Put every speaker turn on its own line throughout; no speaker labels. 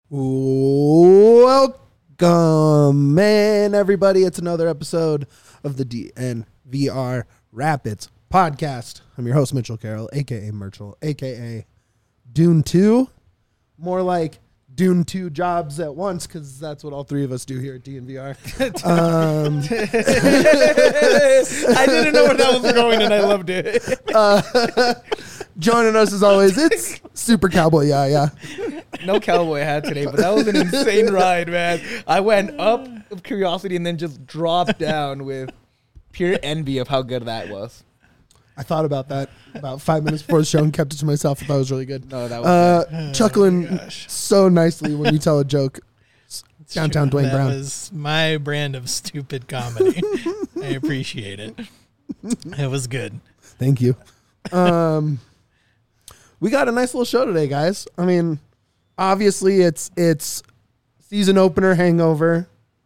Welcome, man, everybody. It's another episode of the DNVR Rapids podcast. I'm your host, Mitchell Carroll, a.k.a. Merchel, a.k.a. Dune 2. More like Dune 2 jobs at once, because that's what all three of us do here at DNVR.
I didn't know where that was going, and I loved it.
Joining us, as always, it's Super Cowboy Yeah.
No cowboy hat today, but that was an insane ride, man. I went up of curiosity and then just dropped down with pure envy of how good that was.
I thought about that about 5 minutes before the show and kept it to myself. I thought it was really good.
No, that was
chuckling so nicely when you tell a joke. Downtown Dwayne Brown.
That was my brand of stupid comedy. I appreciate it. It was good.
Thank you. We got a nice little show today, guys. I mean, obviously it's season opener hangover.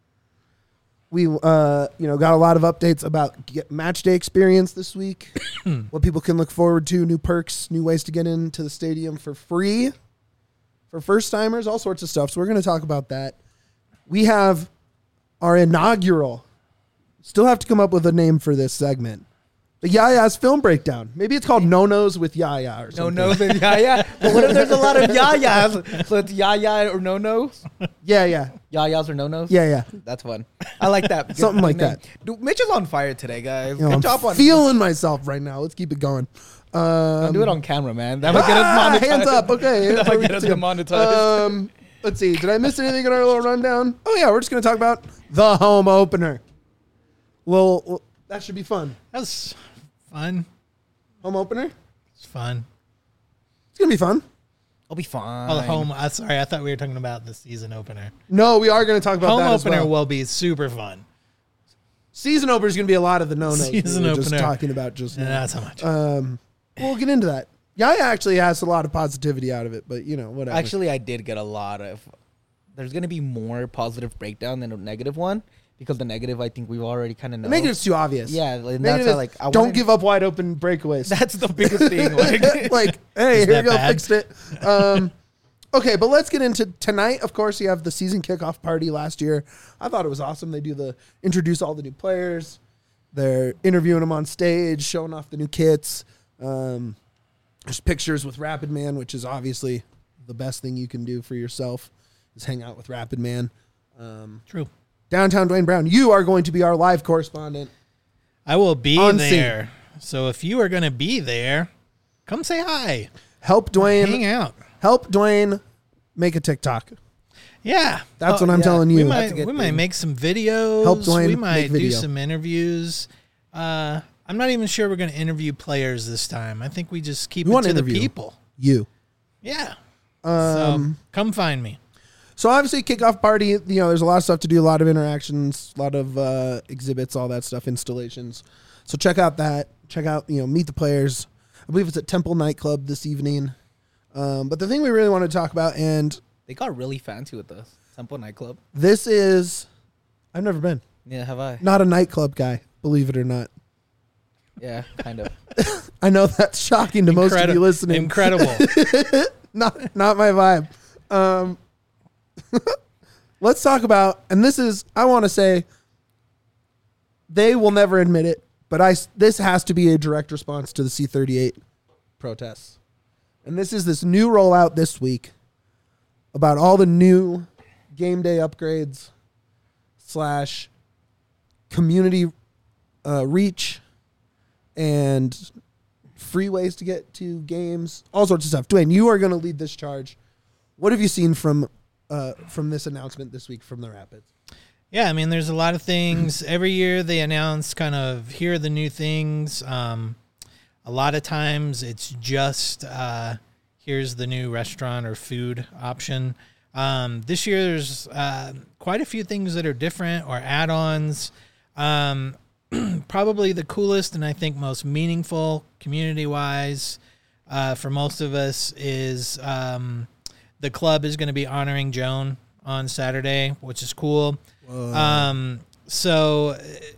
We got a lot of updates about match day experience this week. What people can look forward to, new perks, new ways to get into the stadium for free for first timers, all sorts of stuff. So we're going to talk about that. We have our inaugural, still have to come up with a name for this segment, the Yaya's film breakdown. Maybe it's called No-Nos with Yaya or something.
No-Nos with Yaya? But what if there's a lot of Yayas? So it's Yaya or No-Nos?
Yeah.
Yayas or No-Nos?
Yeah.
That's fun. I like that.
Something like that.
Dude, Mitch is on fire today, guys.
I'm
Good job on
feeling myself right now. Let's keep it going.
Don't do it on camera, man. That might get us monetized.
Hands up. Okay.
That might get us demonetized.
Let's see. Did I miss anything in our little rundown? Oh, yeah. We're just going to talk about the home opener. Well, that should be fun.
That was fun.
Home opener?
It's fun.
It's going to be fun.
I'll be fine.
Oh, the home. Sorry, I thought we were talking about the season opener.
No, we are going to talk about
home
that
opener
as well.
will be super fun.
Season opener is going to be a lot of the no-nos
Season
we were just
opener.
talking about just now.
Not so much.
We'll get into that. Yaya actually has a lot of positivity out of it, but, whatever.
Actually, I did get a lot of... There's going to be more positive breakdown than a negative one, because the negative, I think we've already kind of know.
The negative's too obvious.
Yeah, and
Negative
that's how,
is, don't give up wide open breakaways.
That's the biggest thing.
Like, hey,
Is
here we
that
go,
bad?
fixed it. Okay, but let's get into tonight. Of course, you have the season kickoff party last year. I thought it was awesome. They do introduce all the new players. They're interviewing them on stage, showing off the new kits. There's pictures with Rapid Man, which is obviously the best thing you can do for yourself, is hang out with Rapid Man.
True.
Downtown Dwayne Brown, you are going to be our live correspondent.
I will be
On
there. So if you are going to be there, come say hi.
Help
Hang
Dwayne.
out.
Help Dwayne make a TikTok.
Yeah.
That's what I'm telling you.
We
That's a
might
good
might
thing.
make some videos.
Help Dwayne
we
make
might do
video.
some interviews. I'm not even sure we're going to interview players this time. I think we just keep
We
it
wanna
to the
interview
people.
You.
Yeah. So come find me.
So obviously, kickoff party, there's a lot of stuff to do, a lot of interactions, a lot of exhibits, all that stuff, installations. So check out that. Check out, meet the players. I believe it's at Temple Nightclub this evening. But the thing we really want to talk about, and
They got really fancy with us. Temple Nightclub.
this is, I've never been.
Yeah, have I?
Not a nightclub guy, believe it or not.
Yeah, kind of.
I know that's shocking to most of you listening.
Incredible.
Not my vibe. Let's talk about, and I want to say, they will never admit it, but this has to be a direct response to the C-38 protests. And this is this new rollout this week about all the new game day upgrades / community reach and free ways to get to games, all sorts of stuff. Dwayne, you are going to lead this charge. What have you seen from this announcement this week from the Rapids?
Yeah, I mean, there's a lot of things. Every year they announce kind of, here are the new things. A lot of times it's just, here's the new restaurant or food option. This year there's quite a few things that are different or add-ons. Probably the coolest and I think most meaningful community-wise for most of us is the club is going to be honoring Joan on Saturday, which is cool. So,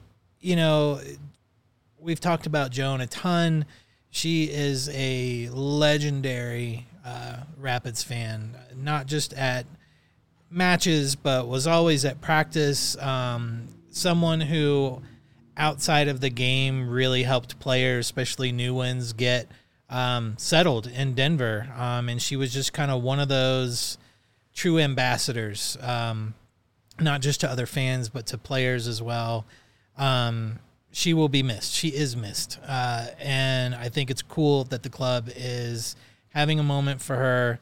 we've talked about Joan a ton. She is a legendary Rapids fan, not just at matches, but was always at practice. Someone who, outside of the game, really helped players, especially new ones, get settled in Denver. And she was just kind of one of those true ambassadors, not just to other fans, but to players as well. She will be missed. She is missed. And I think it's cool that the club is having a moment for her.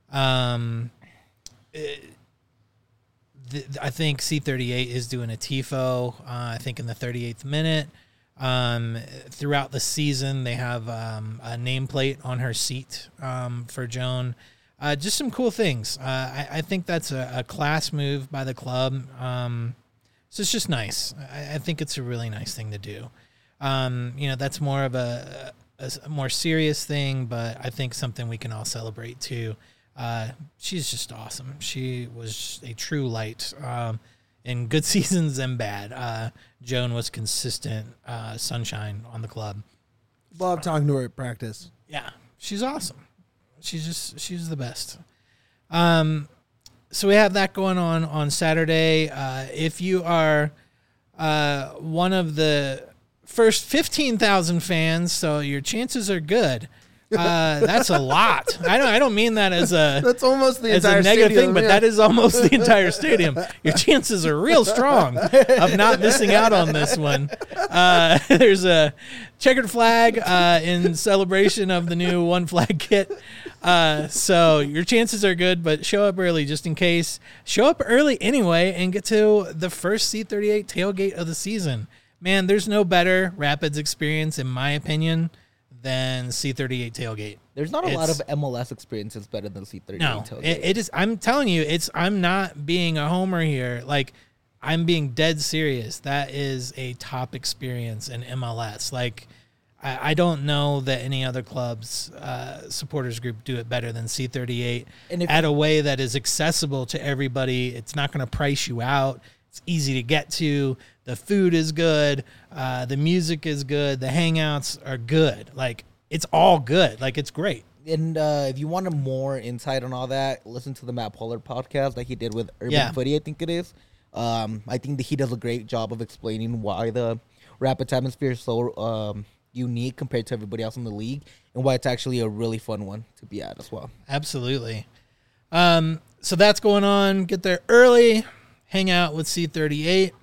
I think C38 is doing a TIFO, I think in the 38th minute. Throughout the season, they have a nameplate on her seat for Joan. Just some cool things. I think that's a class move by the club. So it's just nice. I think it's a really nice thing to do. That's more of a more serious thing, but I think something we can all celebrate too. She's just awesome. She was a true light in good seasons and bad. Joan was consistent sunshine on the club.
Love talking to her at practice.
Yeah, she's awesome. She's the best. So we have that going on Saturday. If you are one of the first 15,000 fans, so your chances are good. That's a lot. I don't mean that as
that's almost the
as
entire
a negative
stadium,
thing, but
yeah.
that is almost the entire stadium. Your chances are real strong of not missing out on this one. There's a checkered flag in celebration of the new One Flag kit. So your chances are good, but show up early just in case. Show up early anyway and get to the first C38 tailgate of the season. Man, there's no better Rapids experience, in my opinion, than C38 tailgate.
There's not a lot of MLS experiences better than C38 tailgate.
It is. I'm telling you, I'm not being a homer here. Like, I'm being dead serious. That is a top experience in MLS. Like, I don't know that any other club's supporters group do it better than C38 at a way that is accessible to everybody. It's not going to price you out. It's easy to get to. The food is good. The music is good. The hangouts are good. Like, it's all good. Like, it's great.
And if you wanted more insight on all that, listen to the Matt Pollard podcast that he did with Urban Footy, I think it is. I think that he does a great job of explaining why the Rapids atmosphere is so unique compared to everybody else in the league and why it's actually a really fun one to be at as well.
Absolutely. So that's going on. Get there early. Hang out with C38.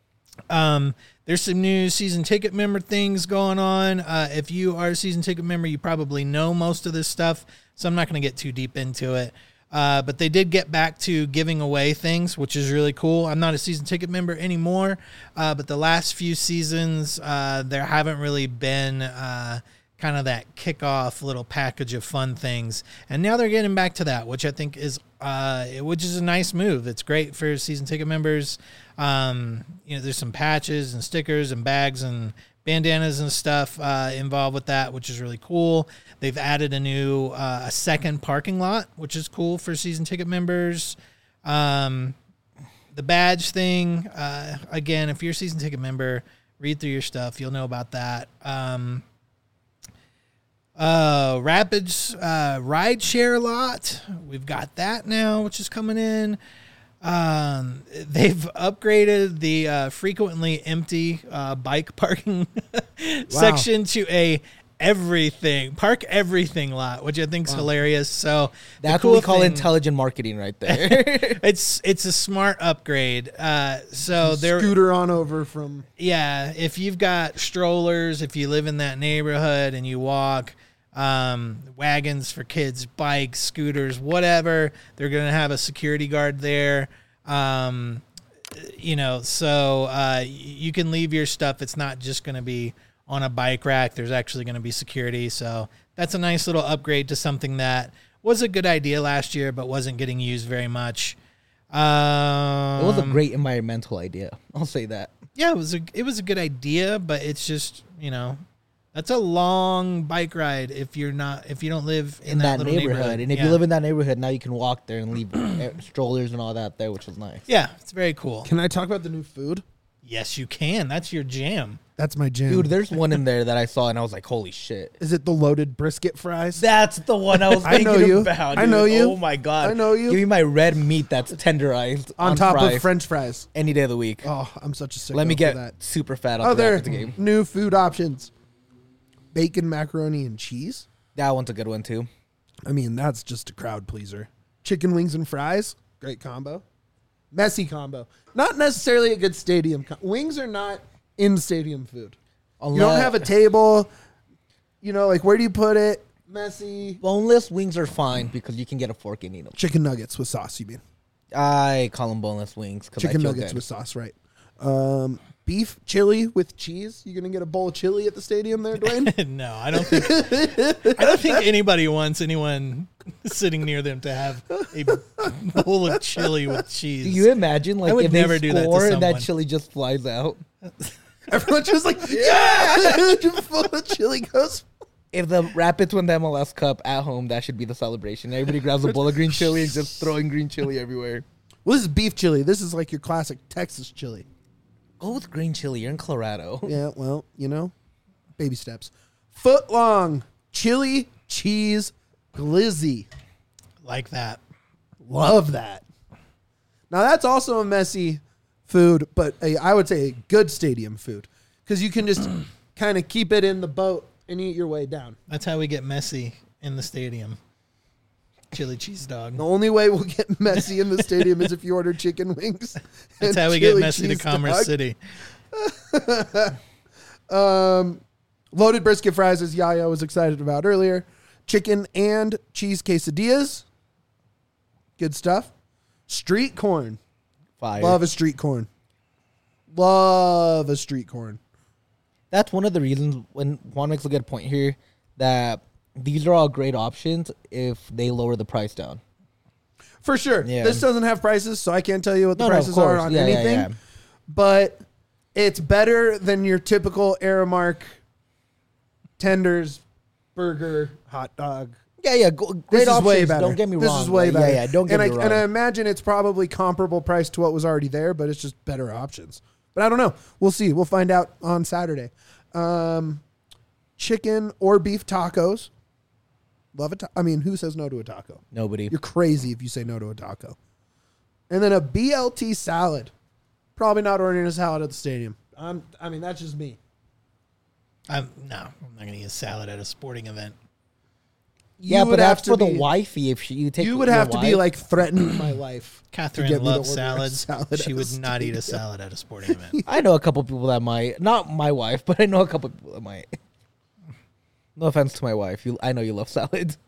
There's some new season ticket member things going on. If you are a season ticket member, you probably know most of this stuff, so I'm not going to get too deep into it. But they did get back to giving away things, which is really cool. I'm not a season ticket member anymore, but the last few seasons, there haven't really been kind of that kickoff little package of fun things. And now they're getting back to that, which I think is a nice move. It's great for season ticket members. There's some patches and stickers and bags and bandanas and stuff involved with that, which is really cool. They've added a second parking lot, which is cool for season ticket members. The badge thing, again, if you're a season ticket member, read through your stuff. You'll know about that. Rapids ride share lot. We've got that now, which is coming in. They've upgraded the frequently empty bike parking section to a park everything lot, which I think is hilarious. So
that's what we call intelligent marketing right there.
It's a smart upgrade. So they're
scooter on over from
if you've got strollers, if you live in that neighborhood and you walk, wagons for kids, bikes, scooters, whatever, they're going to have a security guard there. So you can leave your stuff. It's not just going to be on a bike rack. There's actually going to be security. So that's a nice little upgrade to something that was a good idea last year, but wasn't getting used very much.
It was a great environmental idea. I'll say that.
Yeah, it was a good idea, but it's just, that's a long bike ride if you don't live in that little neighborhood.
And if you live in that neighborhood, now you can walk there and leave strollers and all that there, which is nice.
Yeah, it's very cool.
Can I talk about the new food?
Yes, you can. That's your jam.
That's my jam.
Dude, there's one in there that I saw and I was like, holy shit.
Is it the loaded brisket fries?
That's the one I was
I know
thinking
you.
about. Dude.
I know you.
Oh my God.
I know you.
Give me my red meat that's tenderized
On top
fry
of French fries.
any day of the week.
Oh, I'm such a sicko
Let me
for
get
that.
super fat
Oh,
off
there
the game.
new food options. Bacon, macaroni, and cheese.
That one's a good one too.
I mean, that's just a crowd pleaser. Chicken wings and fries. Great combo. Messy combo. Not necessarily a good stadium. Wings are not in stadium food. You don't have a table. You know, like, where do you put it? Messy.
Boneless wings are fine because you can get a fork and eat them.
Chicken nuggets with sauce, you mean?
I call them boneless wings because
Chicken nuggets with sauce, right. Beef chili with cheese. You gonna get a bowl of chili at the stadium there, Dwayne?
No, I don't think anybody wants anyone sitting near them to have a bowl of chili with cheese.
Do you imagine, like,
I would
if
never
they
do that to
score and
someone.
that chili just flies out?
Everyone's just like, yeah! Full of chili goes.
If the Rapids win the MLS Cup at home, that should be the celebration. Everybody grabs a bowl of green chili and just throwing green chili everywhere.
Well, this is beef chili. This is like your classic Texas chili.
Go with green chili. You're in Colorado.
Yeah, well, you know, baby steps. Foot long chili cheese glizzy.
Like that.
Love that. Now, that's also a messy food, but I would say a good stadium food because you can just kind of keep it in the boat and eat your way down.
That's how we get messy in the stadium. Chili cheese dog.
The only way we'll get messy in the stadium is if you order chicken wings.
That's how we get messy to Commerce City.
Loaded brisket fries, as Yaya was excited about earlier. Chicken and cheese quesadillas. Good stuff. Street corn.
Fire.
Love a street corn. Love a street corn.
That's one of the reasons when Juan makes a good point here that these are all great options if they lower the price down.
For sure.
Yeah.
This doesn't have prices, so I can't tell you what the
No, of
prices are
course.
on
Yeah, yeah,
anything.
yeah.
But it's better than your typical Aramark tenders, burger, hot dog.
Yeah. Great
This is
options.
way better.
Don't get me wrong.
This is way better.
Yeah. Don't get me wrong.
And I imagine it's probably comparable price to what was already there, but it's just better options. But I don't know. We'll see. We'll find out on Saturday. Chicken or beef tacos. Love it. I mean, who says no to a taco?
Nobody.
You're crazy if you say no to a taco. And then a BLT salad. Probably not ordering a salad at the stadium. I mean, that's just me.
I'm not going to eat a salad at a sporting event.
Yeah,
You
but that's
to
for the
be-
wifey. If you take,
You would
your
have to be
wife.
like threatening my life.
Catherine
get me to
loves
order a
salads.
salad
She
at
would
a
not eat a
stadium.
salad at a sporting event.
I know a couple people that might. Not my wife, but I know a couple people that might. No offense to my wife. I know you love salads.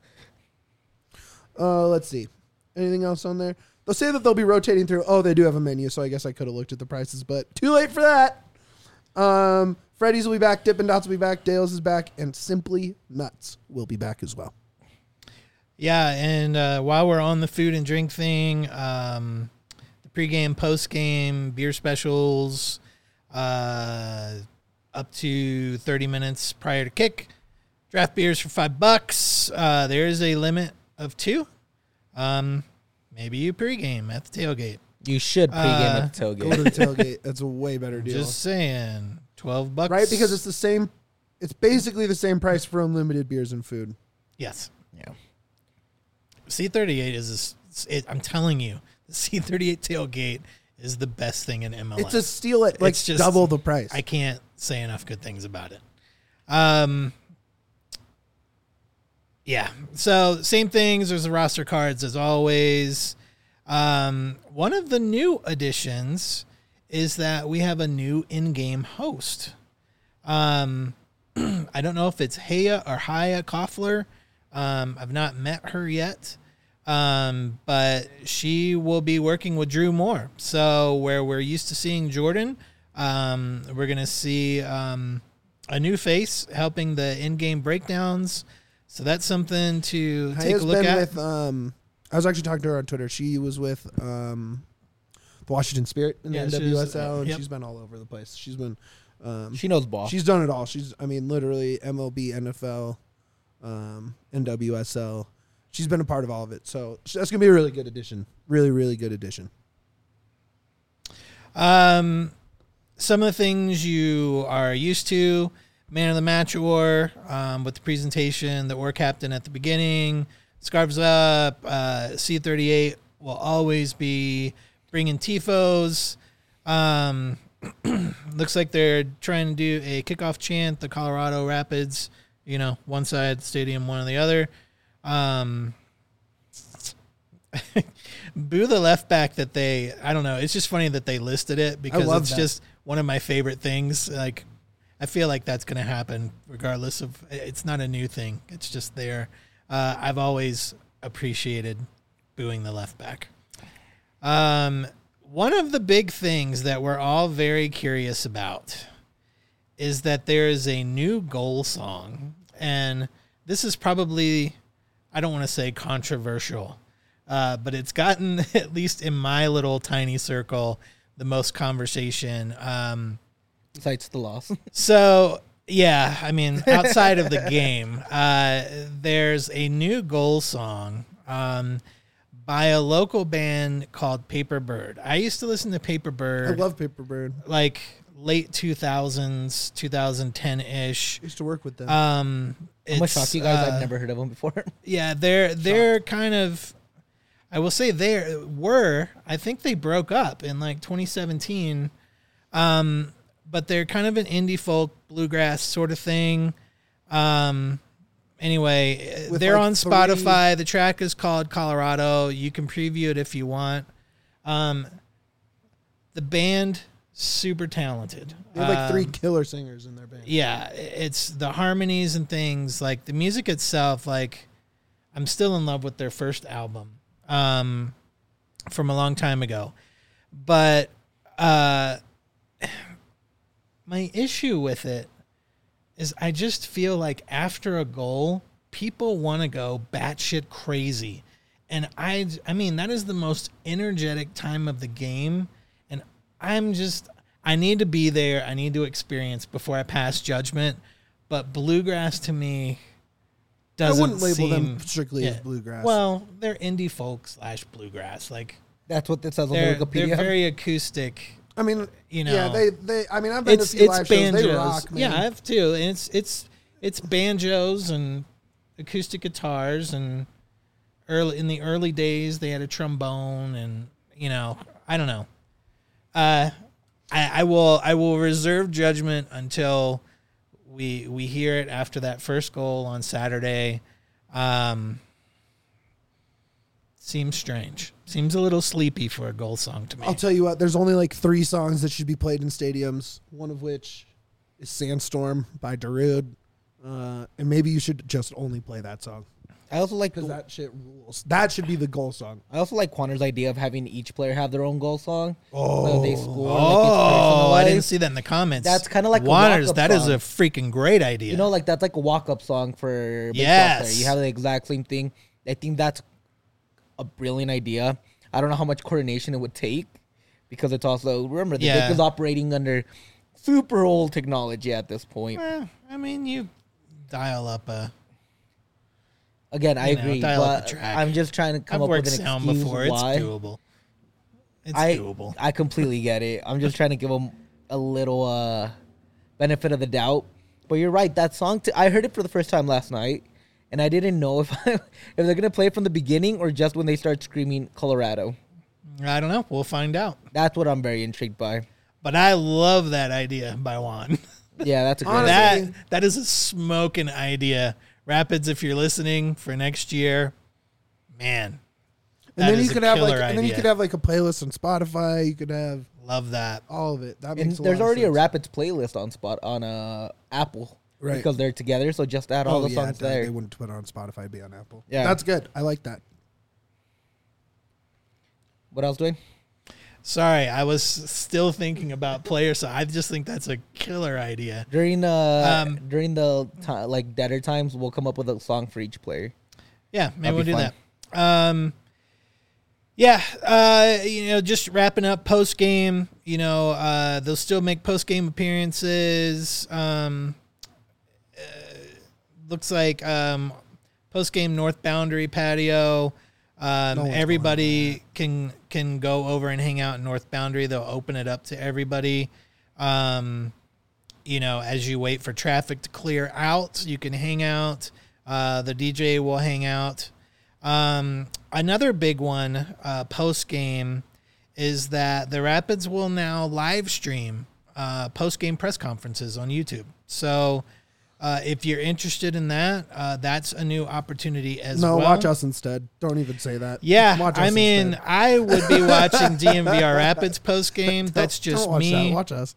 Let's see. Anything else on there? They'll say that they'll be rotating through. Oh, they do have a menu, so I guess I could have looked at the prices, but too late for that. Freddy's will be back. Dippin' Dots will be back. Dale's is back. And Simply Nuts will be back as well.
Yeah, and while we're on the food and drink thing, the pregame, postgame, beer specials, up to 30 minutes prior to kick. Draft beers for $5. There is a limit of 2. Maybe you pregame at the tailgate.
You should pregame at the tailgate.
Go to the tailgate. That's a way better deal.
Just saying, $12,
right? Because it's the same. It's basically the same price for unlimited beers and food.
yes.
Yeah.
C38 is. I'm telling you, the C38 tailgate is the best thing in MLS.
It's a steal at like
It's just-
double the price.
I can't say enough good things about it. Yeah. So same things. There's the roster cards as always. One of the new additions is that we have a new in-game host. I don't know if it's Haya or Haya Koffler. I've not met her yet. But she will be working with Drew Moore. So where we're used to seeing Jordan, we're going to see a new face helping the in-game breakdowns. So that's something to take a look at.
I was actually talking to her on Twitter. She was with the Washington Spirit in the
she was,
NWSL, and
yep.
she's been all over the place. She's been
She knows ball.
she's done it all. Literally MLB, NFL, NWSL. She's been a part of all of it. So that's going to be a really good addition. Really, really good addition.
some of the things you are used to. Man of the Match Ore with the presentation, the Ore Captain at the beginning, Scarves Up, C38 will always be bringing tifos. Looks like they're trying to do a kickoff chant, the Colorado Rapids, one side of the stadium, one on the other. Boo the left back that I don't know. It's just funny that they listed it because it's just one of my favorite things. Like, I feel like that's going to happen regardless of, it's not a new thing. It's just there. I've always appreciated booing the left back. One of the big things that we're all very curious about is that there is a new goal song. And this is probably, I don't want to say controversial, but it's gotten, at least in my little tiny circle, the most conversation.
Besides the loss.
So, yeah, I mean, outside of the game, there's a new goal song by a local band called Paper Bird. I used to listen to Paper Bird.
I love Paper Bird.
Like late 2000s, 2010-ish.
I used to work with them.
I'm gonna shock you guys. I've never heard of them before.
Yeah, they're kind of, I will say I think they broke up in like 2017. But they're kind of an indie folk bluegrass sort of thing. Anyway, they're on Spotify. The track is called Colorado. You can preview it if you want. The band, super talented.
They have like 3 killer singers in their band.
Yeah, it's the harmonies and things. Like the music itself, like I'm still in love with their first album from a long time ago. But my issue with it is I just feel like after a goal, people want to go batshit crazy. And I mean, that is the most energetic time of the game. And I need to be there. I need to experience before I pass judgment. But bluegrass to me doesn't
I wouldn't label them strictly as bluegrass.
Well, they're indie folk / bluegrass. Like
that's what it says on
They're
Wikipedia.
very acoustic.
I mean,
Yeah,
they. I mean, I've been to a few live
banjos.
shows. They rock, man.
Yeah, I have too. And it's banjos and acoustic guitars, and in the early days they had a trombone, and I don't know. I will reserve judgment until we hear it after that first goal on Saturday. Seems strange. Seems a little sleepy for a goal song to me.
I'll tell you what, there's only like 3 songs that should be played in stadiums, one of which is Sandstorm by Darude. And maybe you should just only play that song.
I also like
because that shit rules. That should be the goal song.
I also like Quanner's idea of having each player have their own goal song.
Oh,
so they score.
I didn't see that in the comments.
That's kind of like
Waters.
A
that
song.
is a freaking great idea.
Like that's like a walk-up song for baseball player. You have the exact same thing. I think that's a brilliant idea. I don't know how much coordination it would take because it's also, remember, the league is operating under super old technology at this point.
I mean, you dial up a.
Again, I agree, but I'm just trying to come up with an
sound
excuse
before.
why.
It's doable. It's doable.
I completely get it. I'm just trying to give them a little benefit of the doubt. But you're right. That song, I heard it for the first time last night, and I didn't know if they're going to play it from the beginning or just when they start screaming Colorado.
I don't know. We'll find out.
That's what I'm very intrigued by.
But I love that idea by Juan.
Yeah, that's a great idea.
That is a smoking idea. Rapids, if you're listening for next year, man.
And then you could have like a playlist on Spotify. You could have
love that.
All of it. That
and
makes
there's already
a
a Rapids playlist on Apple,
right?
Because they're together. So just add all the songs there.
They wouldn't put it on Spotify. It'd be on Apple.
Yeah,
that's good. I like that.
What else, Dwayne?
Sorry, I was still thinking about players. So I just think that's a killer idea.
During the like deader times, we'll come up with a song for each player.
Yeah, maybe we'll do that. Just wrapping up post game. They'll still make post game appearances. Looks like post game North Boundary patio. Everybody can go over and hang out in North Boundary. They'll open it up to everybody. As you wait for traffic to clear out, you can hang out. The DJ will hang out. Another big one post game is that the Rapids will now live stream post game press conferences on YouTube. So if you're interested in that, that's a new opportunity as well.
No, watch us instead. Don't even say that.
Yeah,
instead.
I would be watching DMVR Rapids post game. That's just
don't watch
me.
That. Watch us.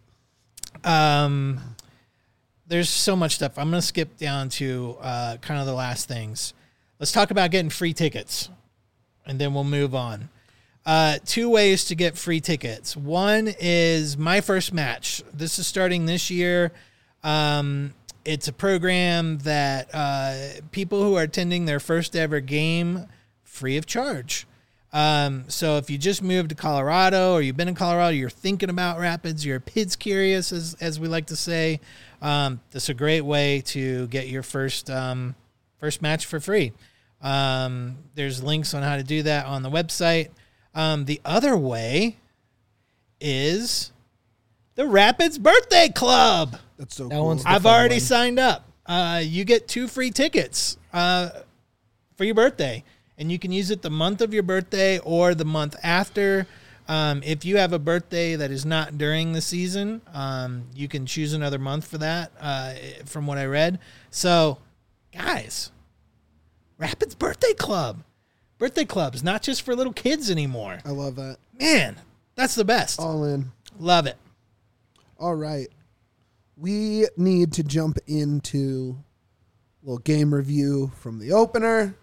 There's so much stuff. I'm going to skip down to kind of the last things. Let's talk about getting free tickets, and then we'll move on. 2 ways to get free tickets. One is My First Match. This is starting this year. It's a program that people who are attending their first ever game free of charge. So if you just moved to Colorado or you've been in Colorado, you're thinking about Rapids, you're PIDS curious, as we like to say, this is a great way to get your first match for free. There's links on how to do that on the website. The other way is the Rapids Birthday Club.
That's so
That
cool.
one's
I've already signed up. You get 2 free tickets for your birthday, and you can use it the month of your birthday or the month after. If you have a birthday that is not during the season, you can choose another month for that, from what I read. So, guys, Rapids Birthday Club. Birthday clubs, not just for little kids anymore.
I love that.
Man, that's the best.
All in.
Love it.
All right. We need to jump into a little game review from the opener.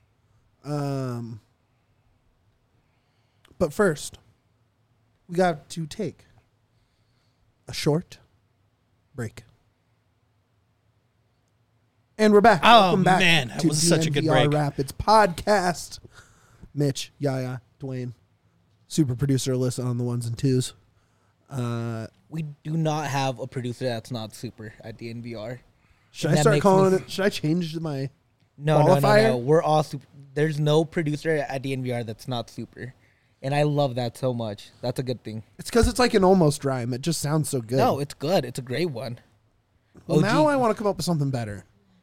But first, we got to take a short break. And we're back.
Oh,
Welcome back
man, that
to
was such a good
DNVR
break.
Rapids podcast. Mitch, Yaya, Dwayne, super producer Alyssa on the ones and twos.
We do not have a producer that's not super at DNVR.
Should
And
I
that
start
makes
calling
me-
it? Should I change my
No.
qualifier?
We're all super. There's no producer at DNVR that's not super. And I love that so much. That's a good thing.
It's because it's like an almost rhyme. It just sounds so good.
No, it's good. It's a great one.
well,
OG.
now I want to come up with something better.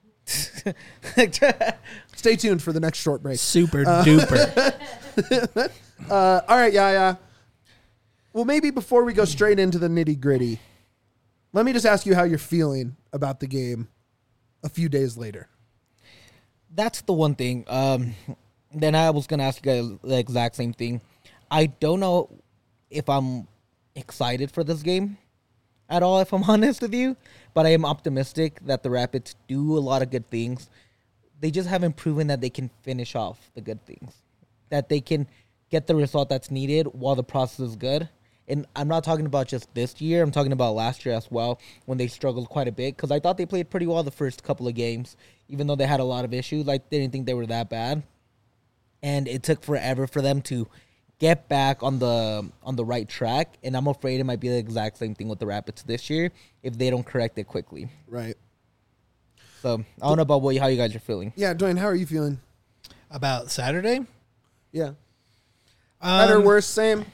Stay tuned for the next short break.
Super duper.
All right, yeah. Well, maybe before we go straight into the nitty gritty, let me just ask you how you're feeling about the game a few days later.
That's the one thing. Then I was going to ask you guys the exact same thing. I don't know if I'm excited for this game at all, if I'm honest with you. But I am optimistic that the Rapids do a lot of good things. They just haven't proven that they can finish off the good things. That they can get the result that's needed while the process is good. And I'm not talking about just this year. I'm talking about last year as well, when they struggled quite a bit. Because I thought they played pretty well the first couple of games, even though they had a lot of issues. Like, they didn't think they were that bad. And it took forever for them to get back on the right track. And I'm afraid it might be the exact same thing with the Rapids this year if they don't correct it quickly.
Right.
So I don't know about how you guys are feeling.
Yeah, Dwayne, how are you feeling?
About Saturday?
Yeah. Better, worse, same?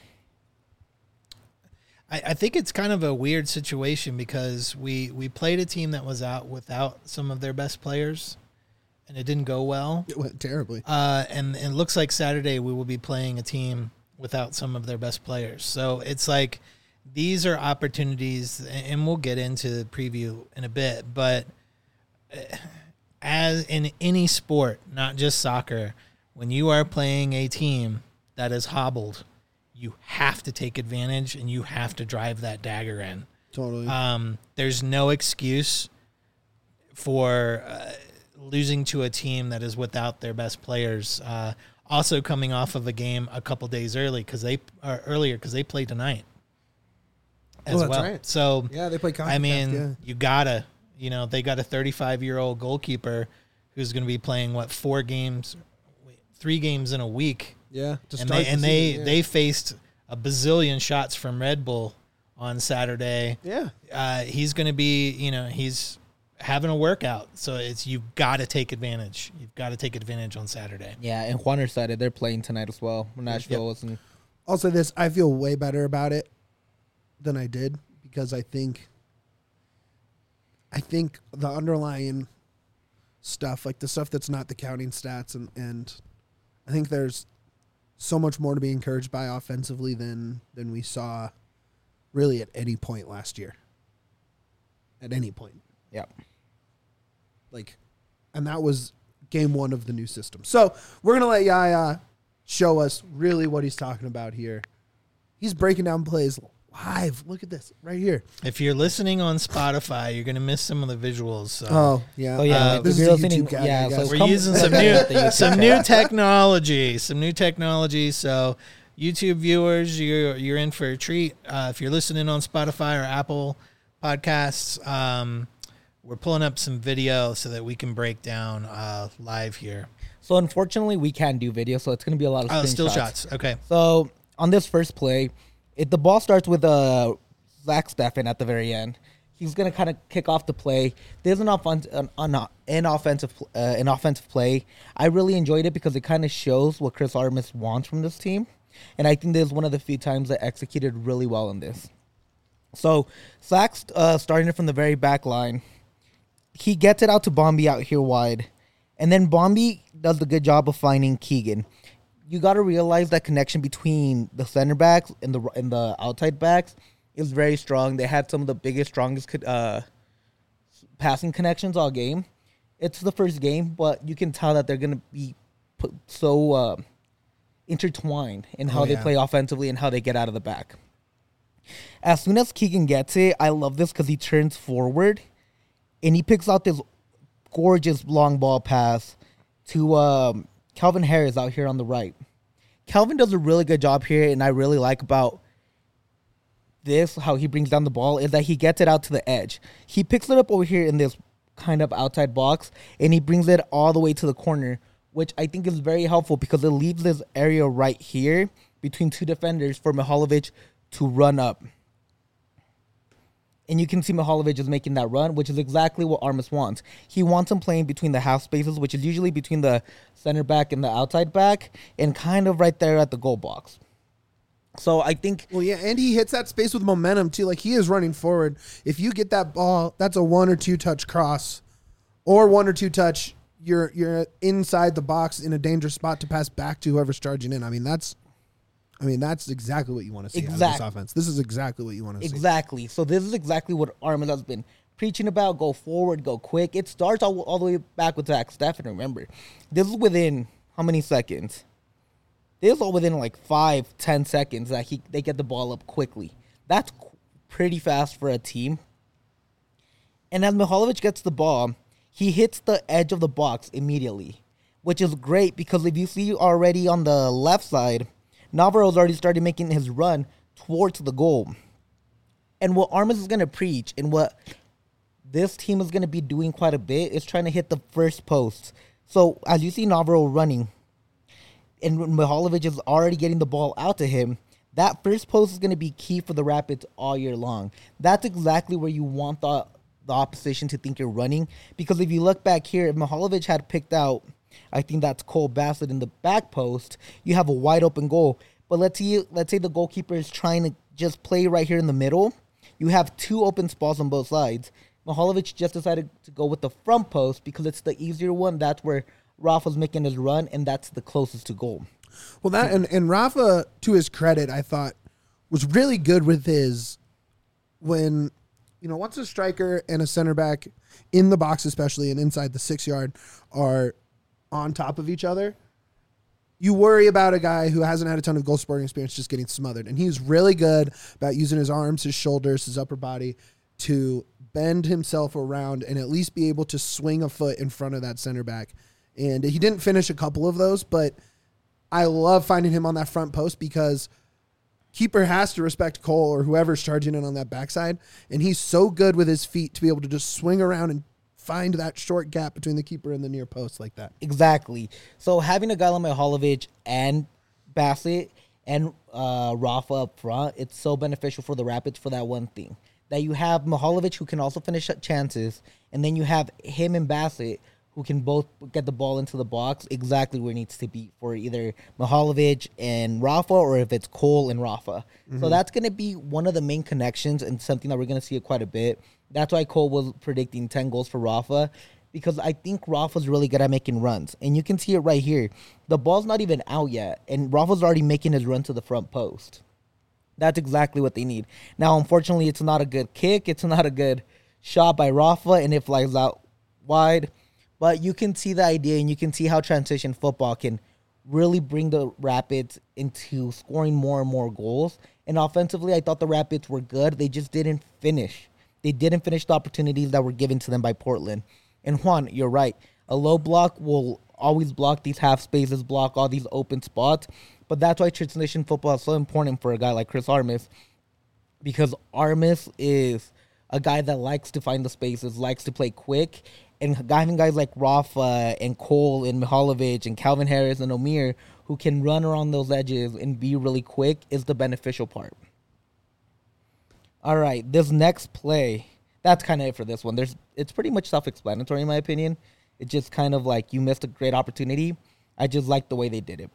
I think it's kind of a weird situation because we played a team that was out without some of their best players, and it didn't go well.
It went terribly.
And it looks like Saturday we will be playing a team without some of their best players. So it's like these are opportunities, and we'll get into the preview in a bit, but as in any sport, not just soccer, when you are playing a team that is hobbled, you have to take advantage and you have to drive that dagger in.
Totally.
There's no excuse for losing to a team that is without their best players. Also coming off of a game a couple days earlier because they played tonight as
that's
well.
right.
So
yeah, they play CONCACAF,
I mean,
yeah.
you gotta, they got a 35-year-old goalkeeper who's going to be playing 3 games in a week.
Yeah, to
And
start
they faced a bazillion shots from Red Bull on Saturday.
Yeah.
He's going to be, he's having a workout. So you've got to take advantage. You've got to take advantage on Saturday.
Yeah, and Juaner said it. They're playing tonight as well. Nashville wasn't.
I'll say this. I feel way better about it than I did because I think the underlying stuff, like the stuff that's not the counting stats, and I think there's so much more to be encouraged by offensively than we saw really at any point last year. At any point.
Yeah.
And that was game one of the new system. So we're going to let Yaya show us really what he's talking about here. He's breaking down plays live. Look at this right here.
If you're listening on Spotify, you're going to miss some of the visuals. So.
Oh, yeah.
Oh, yeah.
This is a YouTube guy.
Yeah,
guys.
so
we're using some new technology. So YouTube viewers, you're in for a treat. If you're listening on Spotify or Apple Podcasts, we're pulling up some video so that we can break down live here.
So unfortunately, we can't do video, so it's going to be a lot of
still shots. Okay.
So on this first play, the ball starts with Zach Steffen at the very end. He's going to kind of kick off the play. There's an offensive play. I really enjoyed it because it kind of shows what Chris Armas wants from this team. And I think this is one of the few times that executed really well in this. So Zach's starting it from the very back line. He gets it out to Bombi out here wide. And then Bombi does the good job of finding Keegan. You got to realize that connection between the center backs and the outside backs is very strong. They had some of the biggest, strongest passing connections all game. It's the first game, but you can tell that they're going to be so intertwined in how they play offensively and how they get out of the back. As soon as Keegan gets it, I love this because he turns forward and he picks out this gorgeous long ball pass to Calvin Harris out here on the right. Calvin does a really good job here, and I really like about this, how he brings down the ball, is that he gets it out to the edge. He picks it up over here in this kind of outside box, and he brings it all the way to the corner, which I think is very helpful because it leaves this area right here between two defenders for Mihalovic to run up. And you can see Mihalovic is making that run, which is exactly what Armas wants. He wants him playing between the half spaces, which is usually between the center back and the outside back, and kind of right there at the goal box. So I think...
Well, yeah, and he hits that space with momentum, too. Like, he is running forward. If you get that ball, that's a 1 or 2 touch cross. Or 1 or 2 touch, you're inside the box in a dangerous spot to pass back to whoever's charging in. I mean, that's exactly what you want to see out of this offense. This is exactly what you want to see.
Exactly. So this is exactly what Armas has been preaching about. Go forward, go quick. It starts all the way back with Zach Steffen. Remember, this is within how many seconds? This is all within like 5-10 seconds that they get the ball up quickly. That's pretty fast for a team. And as Mihalovic gets the ball, he hits the edge of the box immediately, which is great because if you see already on the left side, Navarro's already started making his run towards the goal. And what Armas is going to preach and what this team is going to be doing quite a bit is trying to hit the first post. So as you see Navarro running and Mihalovic is already getting the ball out to him, that first post is going to be key for the Rapids all year long. That's exactly where you want the opposition to think you're running. Because if you look back here, if Mihalovic had picked out, I think that's Cole Bassett in the back post, you have a wide open goal. But let's say the goalkeeper is trying to just play right here in the middle. You have 2 open spots on both sides. Mihalovic just decided to go with the front post because it's the easier one. That's where Rafa's making his run, and that's the closest to goal.
Well, that and Rafa, to his credit, I thought was really good with his when, once a striker and a center back in the box, especially and inside the 6-yard, are on top of each other, you worry about a guy who hasn't had a ton of goal scoring experience just getting smothered. And he's really good about using his arms, his shoulders, his upper body to bend himself around and at least be able to swing a foot in front of that center back. And he didn't finish a couple of those, but I love finding him on that front post because keeper has to respect Cole or whoever's charging in on that backside. And he's so good with his feet to be able to just swing around and find that short gap between the keeper and the near post like that.
Exactly. So having a guy like Mihalovic and Bassett and Rafa up front, it's so beneficial for the Rapids for that one thing. That you have Mihalovic who can also finish chances, and then you have him and Bassett who can both get the ball into the box exactly where it needs to be for either Mihalovic and Rafa, or if it's Cole and Rafa. So that's going to be one of the main connections and something that we're going to see quite a bit. That's why Cole was predicting 10 goals for Rafa, because I think Rafa's really good at making runs. And you can see it right here. The ball's not even out yet, and Rafa's already making his run to the front post. That's exactly what they need. Now, unfortunately, it's not a good kick. It's not a good shot by Rafa, and it flies out wide. But you can see the idea, and you can see how transition football can really bring the Rapids into scoring more and more goals. And offensively, I thought the Rapids were good. They just didn't finish. They didn't finish the opportunities that were given to them by Portland. And Juan, you're right. A low block will always block these half spaces, block all these open spots. But that's why transition football is so important for a guy like Chris Armas, because Armas is a guy that likes to find the spaces, likes to play quick. And having guys like Rafa and Cole and Mihalovic and Calvin Harris and Omir who can run around those edges and be really quick is the beneficial part. All right, this next play, that's kind of it for this one. It's pretty much self-explanatory in my opinion. It's just kind of like you missed a great opportunity. I just like the way they did it.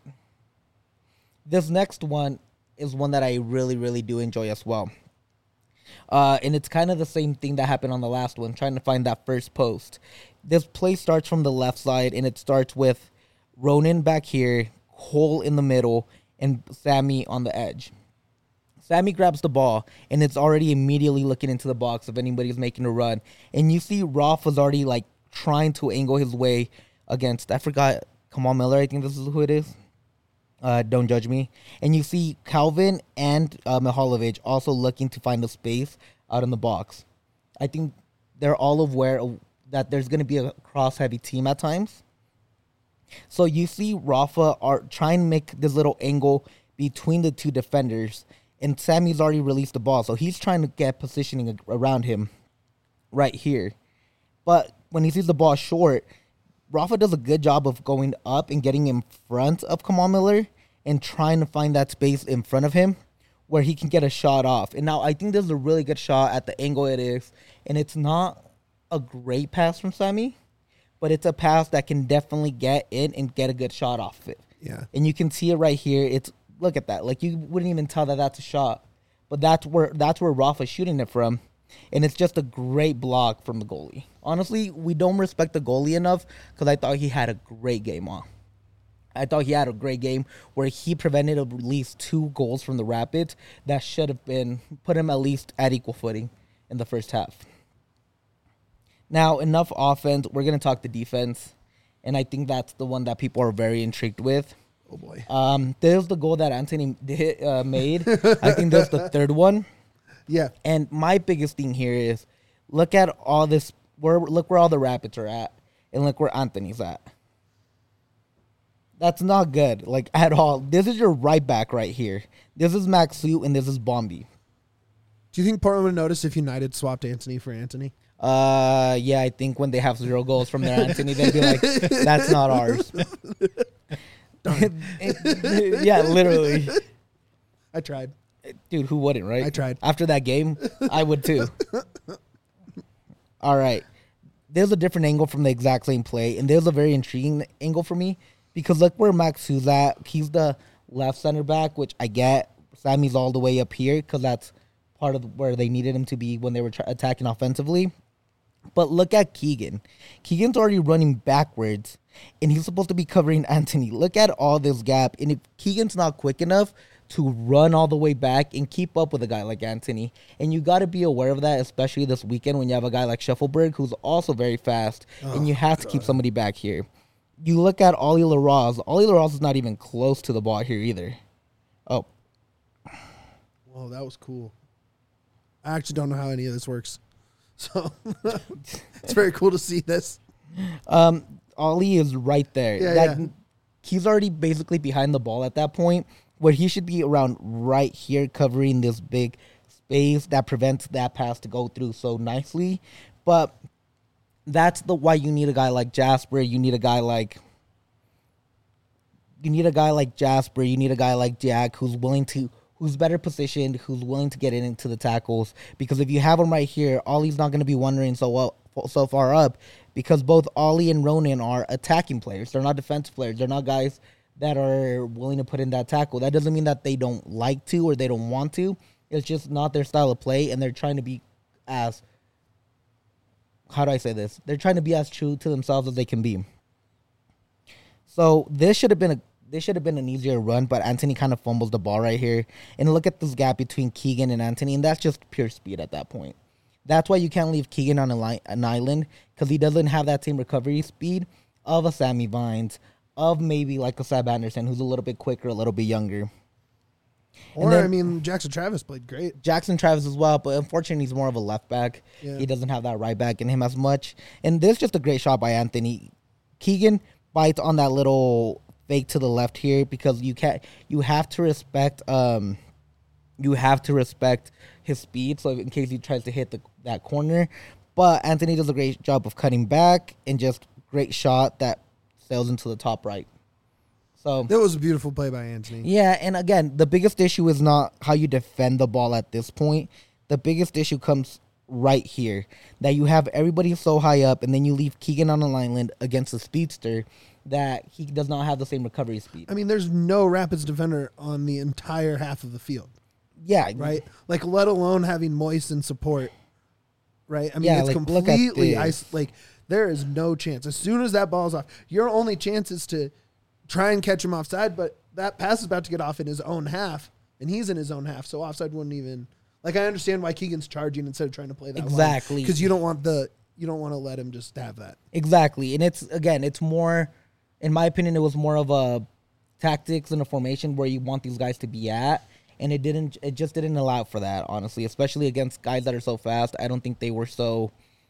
This next one is one that I really, really do enjoy as well. And it's kind of the same thing that happened on the last one, trying to find that first post. This play starts from the left side, and it starts with Ronan back here, Cole in the middle, and Sammy on the edge. Sammy grabs the ball, and it's already immediately looking into the box if anybody's making a run. And you see Rafa's already, like, trying to angle his way against, I forgot, Kamal Miller, I think this is who it is. Don't judge me. And you see Calvin and Mihalovic also looking to find a space out in the box. I think they're all aware that there's going to be a cross-heavy team at times. So you see Rafa are trying to make this little angle between the two defenders, and Sammy's already released the ball, so he's trying to get positioning around him right here. But when he sees the ball short, Rafa does a good job of going up and getting in front of Kamal Miller and trying to find that space in front of him where he can get a shot off. And now I think this is a really good shot at the angle it is. And it's not a great pass from Sammy, but it's a pass that can definitely get in and get a good shot off of it.
Yeah.
And you can see it right here. Look at that. Like, you wouldn't even tell that that's a shot. But that's where Rafa's shooting it from. And it's just a great block from the goalie. Honestly, we don't respect the goalie enough because I thought he had a great game on. I thought he had a great game where he prevented at least 2 goals from the Rapids that should have put him at least at equal footing in the first half. Now, enough offense. We're going to talk the defense. And I think that's the one that people are very intrigued with.
Oh, boy.
There's the goal that Anthony made. I think that's the third one.
Yeah.
And my biggest thing here is look at all this. Look where all the Rapids are at, and look where Anthony's at. That's not good, like, at all. This is your right back right here. This is Maxu, and this is Bombi.
Do you think Portland would notice if United swapped Anthony for Anthony?
Yeah, I think when they have 0 goals from their Anthony, they'd be like, that's not ours. Yeah, literally.
I tried.
Dude, who wouldn't, right?
I tried.
After that game, I would too. All right. There's a different angle from the exact same play, and there's a very intriguing angle for me because look where Maxu's at. He's the left center back, which I get. Sammy's all the way up here because that's part of where they needed him to be when they were attacking offensively. But look at Keegan. Keegan's already running backwards, and he's supposed to be covering Anthony. Look at all this gap, and if Keegan's not quick enough to run all the way back and keep up with a guy like Anthony. And you got to be aware of that, especially this weekend when you have a guy like Scheffelberg, who's also very fast, and you have to keep somebody back here. You look at Ollie LaRose. Ollie LaRose is not even close to the ball here either. Oh.
Whoa, that was cool. I actually don't know how any of this works. So it's very cool to see this.
Ollie is right there.
Yeah.
He's already basically behind the ball at that point, where he should be around right here covering this big space that prevents that pass to go through so nicely. But that's why you need a guy like Jasper. You need a guy like Jasper. You need a guy like Jack who's better positioned, who's willing to get into the tackles. Because if you have him right here, Ollie's not going to be wondering, so so far up because both Ollie and Ronan are attacking players. They're not defensive players. They're not guys that are willing to put in that tackle. That doesn't mean that they don't like to or they don't want to. It's just not their style of play, and they're trying to be as, how do I say this? They're trying to be as true to themselves as they can be. So this should have been an easier run, but Anthony kind of fumbles the ball right here. And look at this gap between Keegan and Anthony, and that's just pure speed at that point. That's why you can't leave Keegan on an island, because he doesn't have that same recovery speed of a Sammy Vines, of maybe like a Seb Anderson, who's a little bit quicker, a little bit younger.
Or, then, I mean, Jackson Travis played great.
Jackson Travis as well, but unfortunately, he's more of a left back. Yeah. He doesn't have that right back in him as much. And this is just a great shot by Anthony. Keegan bites on that little fake to the left here because you have to respect his speed, so in case he tries to hit that corner. But Anthony does a great job of cutting back and just great shot that sails into the top right. So
that was a beautiful play by Anthony.
Yeah, and again, the biggest issue is not how you defend the ball at this point. The biggest issue comes right here, that you have everybody so high up, and then you leave Keegan on an island against a speedster that he does not have the same recovery speed.
I mean, there's no Rapids defender on the entire half of the field.
Yeah.
Right? Like, let alone having Moise in support. Right? I mean, it's completely there is no chance. As soon as that ball's off, your only chance is to try and catch him offside, but that pass is about to get off in his own half, and he's in his own half, so offside wouldn't even... Like, I understand why Keegan's charging instead of trying to play that
exactly,
because you don't want to let him just have that.
Exactly, and it's more, in my opinion, it was more of a tactics and a formation where you want these guys to be at, and it just didn't allow for that, honestly, especially against guys that are so fast. I don't think they were so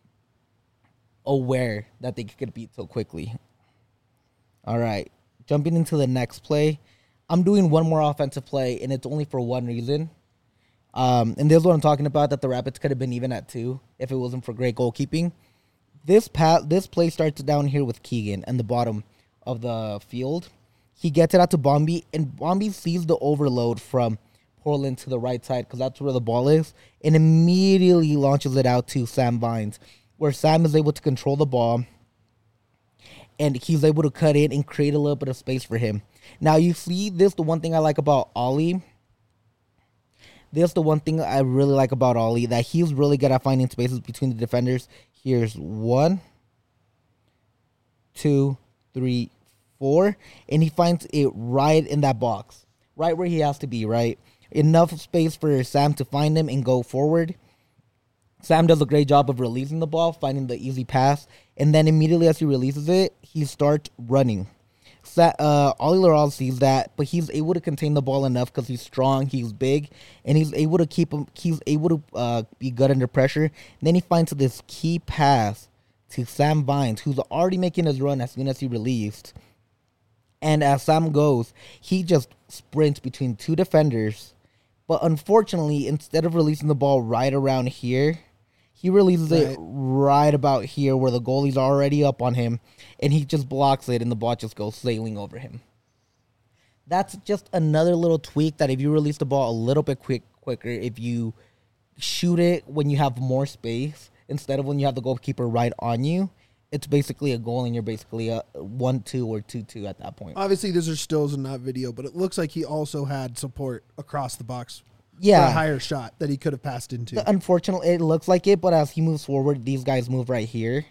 aware that they could get beat so quickly. All right, jumping into the next play, I'm doing one more offensive play, and it's only for one reason. And this is what I'm talking about, that the Rapids could have been even at 2 if it wasn't for great goalkeeping. This play starts down here with Keegan in the bottom of the field. He gets it out to Bombi, and Bombi sees the overload from Portland to the right side because that's where the ball is, and immediately launches it out to Sam Vines, where Sam is able to control the ball, and he's able to cut in and create a little bit of space for him. Now, you see this, the one thing I like about Ollie... That's the one thing I really like about Ollie, that he's really good at finding spaces between the defenders. Here's 1, 2, 3, 4, and he finds it right in that box, right where he has to be, right? Enough space for Sam to find him and go forward. Sam does a great job of releasing the ball, finding the easy pass, and then immediately as he releases it, he starts running. Ollie Laral sees that, but he's able to contain the ball enough because he's strong, he's big, and he's able to be good under pressure. And then he finds this key pass to Sam Vines, who's already making his run as soon as he released. And as Sam goes, he just sprints between 2 defenders. But unfortunately, instead of releasing the ball right around here, he releases it right about here where the goalie's already up on him, and he just blocks it, and the ball just goes sailing over him. That's just another little tweak that if you release the ball a little bit quicker, if you shoot it when you have more space instead of when you have the goalkeeper right on you, it's basically a goal, and you're basically a 1-2 or 2-2 at that point.
Obviously, these are stills and not video, but it looks like he also had support across the box.
Yeah,
for a higher shot that he could have passed into.
Unfortunately, it looks like it, but as he moves forward, these guys move right here.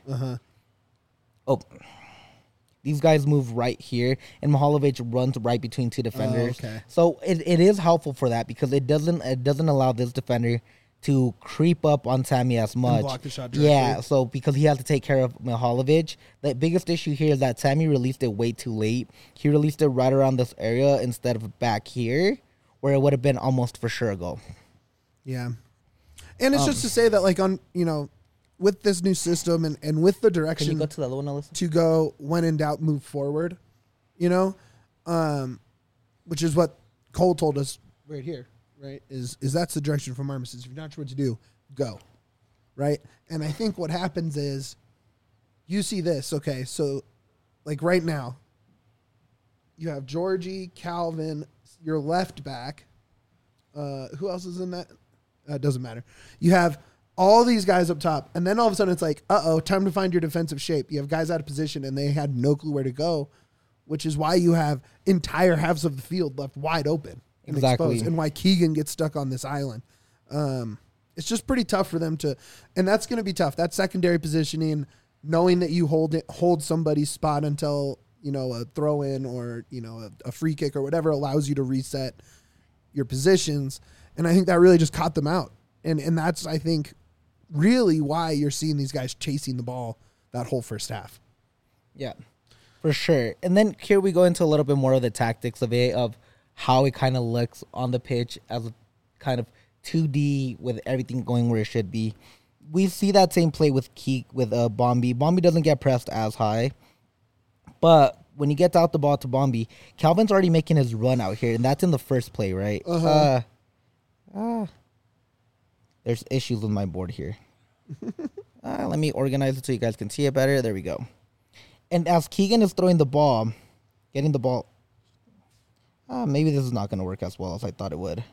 These guys move right here, and Mihalovic runs right between 2 defenders.
Okay.
So it is helpful for that because it doesn't allow this defender to creep up on Sammy as much.
And block the shot directly.
Yeah, so because he has to take care of Mihalovic. The biggest issue here is that Sammy released it way too late. He released it right around this area instead of back here, where it would have been almost for sure a goal.
Yeah. And it's just to say that, like, with this new system and with the direction...
Can you go to the other one, Alyssa?
To go, when in doubt, move forward, which is what Cole told us right here, right? Is that's the direction from Armistice. If you're not sure what to do, go, right? And I think what happens is you see this, okay, so, like, right now, you have Georgie, Calvin... Your left back. Who else is in that? It doesn't matter. You have all these guys up top, and then all of a sudden it's like, time to find your defensive shape. You have guys out of position, and they had no clue where to go, which is why you have entire halves of the field left wide open and exposed, and why Keegan gets stuck on this island. It's just pretty tough for them to, and that's going to be tough. That secondary positioning, knowing that you hold somebody's spot until, a throw in or, a free kick or whatever allows you to reset your positions. And I think that really just caught them out. And that's, I think, really why you're seeing these guys chasing the ball that whole first half.
Yeah, for sure. And then here we go into a little bit more of the tactics of it, of how it kind of looks on the pitch as a kind of 2D with everything going where it should be. We see that same play with Bombi. Bombi doesn't get pressed as high, but when he gets out the ball to Bombi, Calvin's already making his run out here, and that's in the first play, right? There's issues with my board here. Let me organize it so you guys can see it better. There we go. And as Keegan is throwing the ball, getting the ball, maybe this is not going to work as well as I thought it would.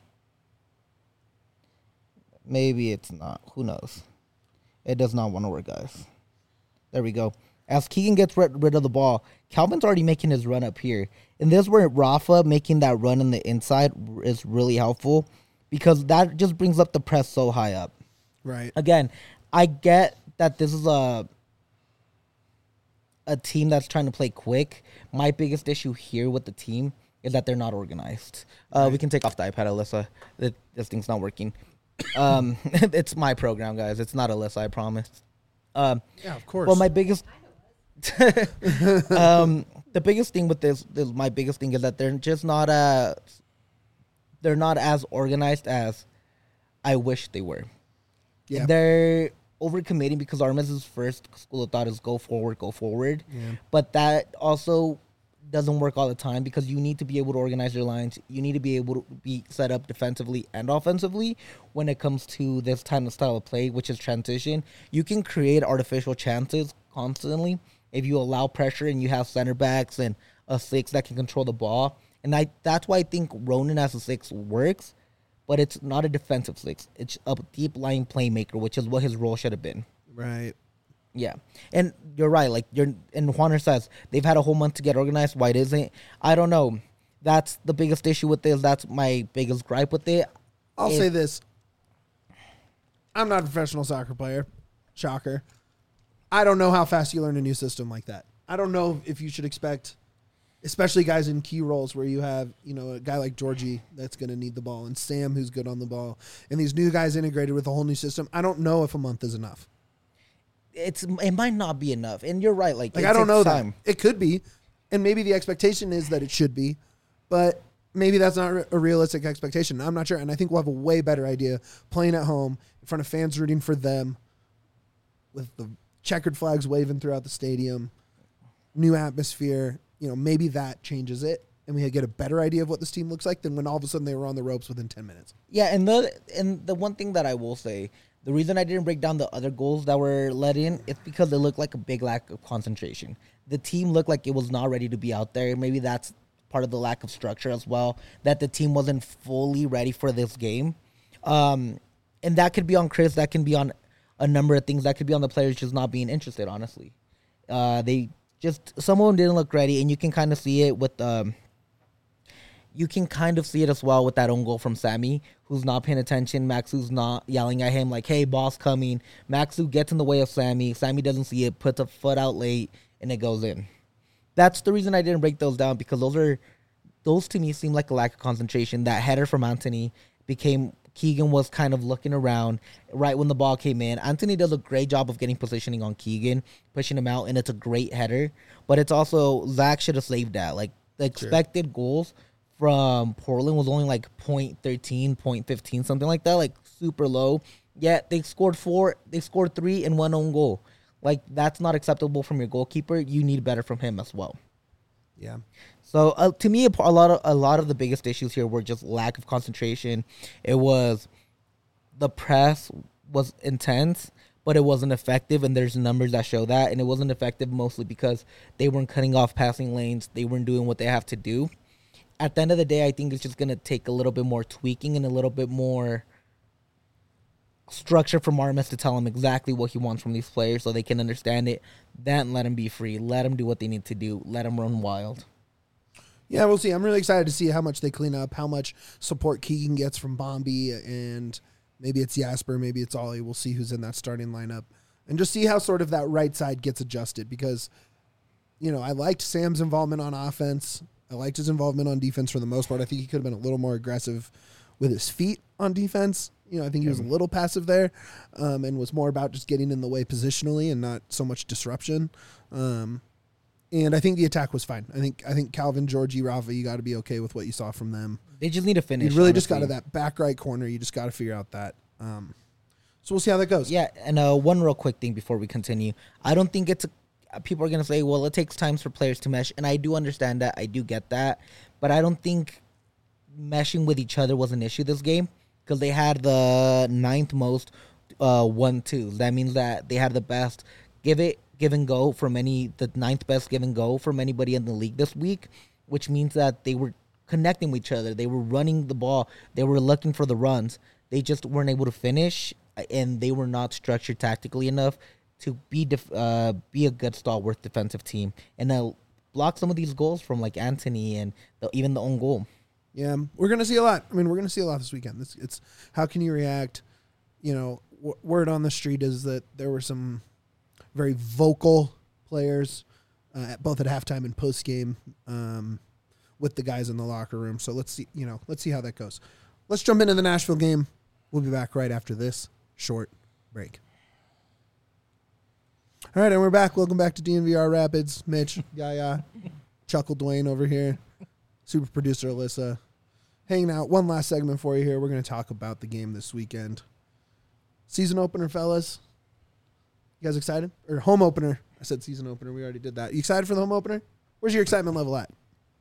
Maybe it's not. Who knows? It does not want to work, guys. There we go. As Keegan gets rid of the ball, Calvin's already making his run up here. And this is where Rafa making that run in the inside is really helpful, because that just brings up the press so high up.
Right.
Again, I get that this is a team that's trying to play quick. My biggest issue here with the team is that they're not organized. We can take off the iPad, Alyssa. This thing's not working. It's my program, guys. It's not Alyssa, I promise.
Yeah, of course.
Well, my biggest... the biggest thing with this, my biggest thing is that they're just not they're not as organized as I wish they were. Yeah. They're overcommitting because Armas' first school of thought is go forward. Yeah. But that also doesn't work all the time, because you need to be able to organize your lines. You need to be able to be set up defensively and offensively when it comes to this kind of style of play, which is transition. You can create artificial chances constantly if you allow pressure and you have center backs and a 6 that can control the ball. And that's why I think Ronan as a 6 works, but it's not a defensive 6. It's a deep line playmaker, which is what his role should have been.
Right.
Yeah. And you're right. And Juaner says they've had a whole month to get organized. Why isn't it? I don't know. That's the biggest issue with this. That's my biggest gripe with it.
I'll say this. I'm not a professional soccer player. Shocker. I don't know how fast you learn a new system like that. I don't know if you should expect, especially guys in key roles where you have, a guy like Georgie that's going to need the ball, and Sam who's good on the ball, and these new guys integrated with a whole new system. I don't know if a month is enough.
It might not be enough, and you're right. Like
I don't know that. It could be, and maybe the expectation is that it should be, but maybe that's not a realistic expectation. I'm not sure, and I think we'll have a way better idea playing at home in front of fans rooting for them, with the checkered flags waving throughout the stadium, new atmosphere. Maybe that changes it, and we get a better idea of what this team looks like than when all of a sudden they were on the ropes within 10 minutes.
Yeah, and the one thing that I will say, the reason I didn't break down the other goals that were let in, it's because they looked like a big lack of concentration. The team looked like it was not ready to be out there. Maybe that's part of the lack of structure as well, that the team wasn't fully ready for this game. And that could be on Chris, that can be on a number of things, that could be on the players just not being interested, honestly. Some of them didn't look ready, and you can kind of see it with you can kind of see it as well with that own goal from Sammy, who's not paying attention. Maxu's not yelling at him like, hey, boss coming. Maxu gets in the way of Sammy. Sammy doesn't see it, puts a foot out late, and it goes in. That's the reason I didn't break those down, because those to me seem like a lack of concentration. That header from Anthony Keegan was kind of looking around right when the ball came in. Anthony does a great job of getting positioning on Keegan, pushing him out, and it's a great header. But it's also, Zach should have saved that. Like, the expected goals from Portland was only like 0.13, 0.15, something like that, like super low. Yet they scored 3 and 1 own goal. Like, that's not acceptable from your goalkeeper. You need better from him as well.
Yeah.
So to me, a lot of the biggest issues here were just lack of concentration. It was the press was intense, but it wasn't effective, and there's numbers that show that. And it wasn't effective mostly because they weren't cutting off passing lanes. They weren't doing what they have to do. At the end of the day, I think it's just going to take a little bit more tweaking and a little bit more structure from Armas to tell him exactly what he wants from these players so they can understand it. Then let him be free. Let him do what they need to do. Let him run wild.
Yeah, we'll see. I'm really excited to see how much they clean up, how much support Keegan gets from Bombi, and maybe it's Jasper, maybe it's Ollie. We'll see who's in that starting lineup. And just see how sort of that right side gets adjusted because, I liked Sam's involvement on offense. I liked his involvement on defense for the most part. I think he could have been a little more aggressive with his feet on defense. I think he was a little passive there and was more about just getting in the way positionally and not so much disruption. And I think the attack was fine. I think Calvin, Georgie, Rafa, you got to be okay with what you saw from them.
They just need to finish.
You really just got to that back right corner. You just got to figure out that. So we'll see how that goes.
Yeah, and one real quick thing before we continue. I don't think people are going to say, well, it takes time for players to mesh, and I do understand that. I do get that. But I don't think meshing with each other was an issue this game because they had the 9th most 1-2s. That means that they had the best give and go from the 9th best give and go from anybody in the league this week, which means that they were connecting with each other. They were running the ball. They were looking for the runs. They just weren't able to finish, and they were not structured tactically enough to be a good stalwart defensive team and block some of these goals from like Anthony and even the own goal.
Yeah, we're going to see a lot. I mean, we're going to see a lot this weekend. It's how can you react? Word on the street is that there were some very vocal players, both at halftime and post game, with the guys in the locker room. So let's see how that goes. Let's jump into the Nashville game. We'll be back right after this short break. All right, and we're back. Welcome back to DNVR Rapids. Mitch, Yaya, Chuckle Dwayne over here, super producer Alyssa, hanging out. One last segment for you here. We're going to talk about the game this weekend. Season opener, fellas. You guys excited? Or home opener. I said season opener. We already did that. You excited for the home opener? Where's your excitement level at?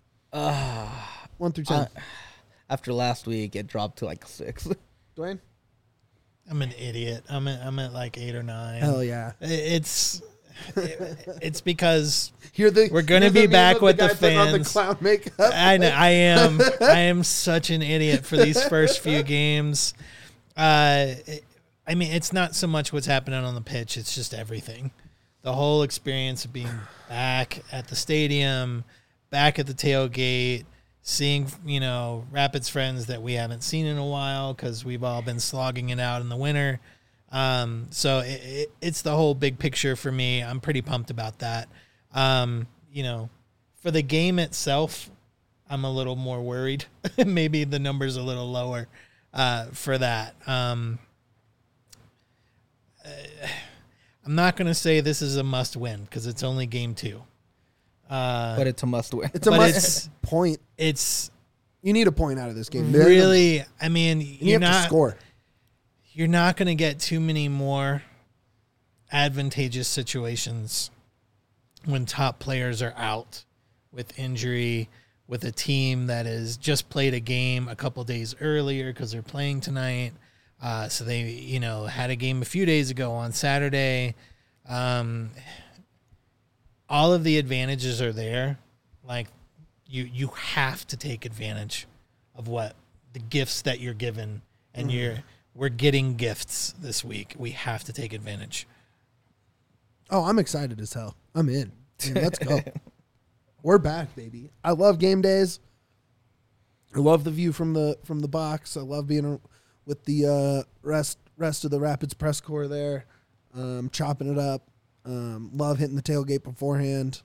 1 through 10.
After last week, it dropped to like 6.
Dwayne?
I'm an idiot. I'm at like 8 or 9.
Hell yeah.
It's because
we're
going to be back with the fans.
On the clown makeup.
I know, I am such an idiot for these first few games. It's not so much what's happening on the pitch. It's just everything. The whole experience of being back at the stadium, back at the tailgate, seeing, Rapids friends that we haven't seen in a while because we've all been slogging it out in the winter. So it's the whole big picture for me. I'm pretty pumped about that. For the game itself, I'm a little more worried. Maybe the number's a little lower for that. I'm not going to say this is a must win because it's only game 2.
But it's a must win.
It's a must point. You need a point out of this game.
Really,
you have to score.
You're not going to get too many more advantageous situations when top players are out with injury, with a team that has just played a game a couple days earlier because they're playing tonight. So they, had a game a few days ago on Saturday. All of the advantages are there. Like you have to take advantage of what the gifts that you're given, and we're getting gifts this week. We have to take advantage.
Oh, I'm excited as hell. I'm in. Let's go. We're back, baby. I love game days. I love the view from the box. I love being with the rest of the Rapids press corps there, chopping it up. Love hitting the tailgate beforehand.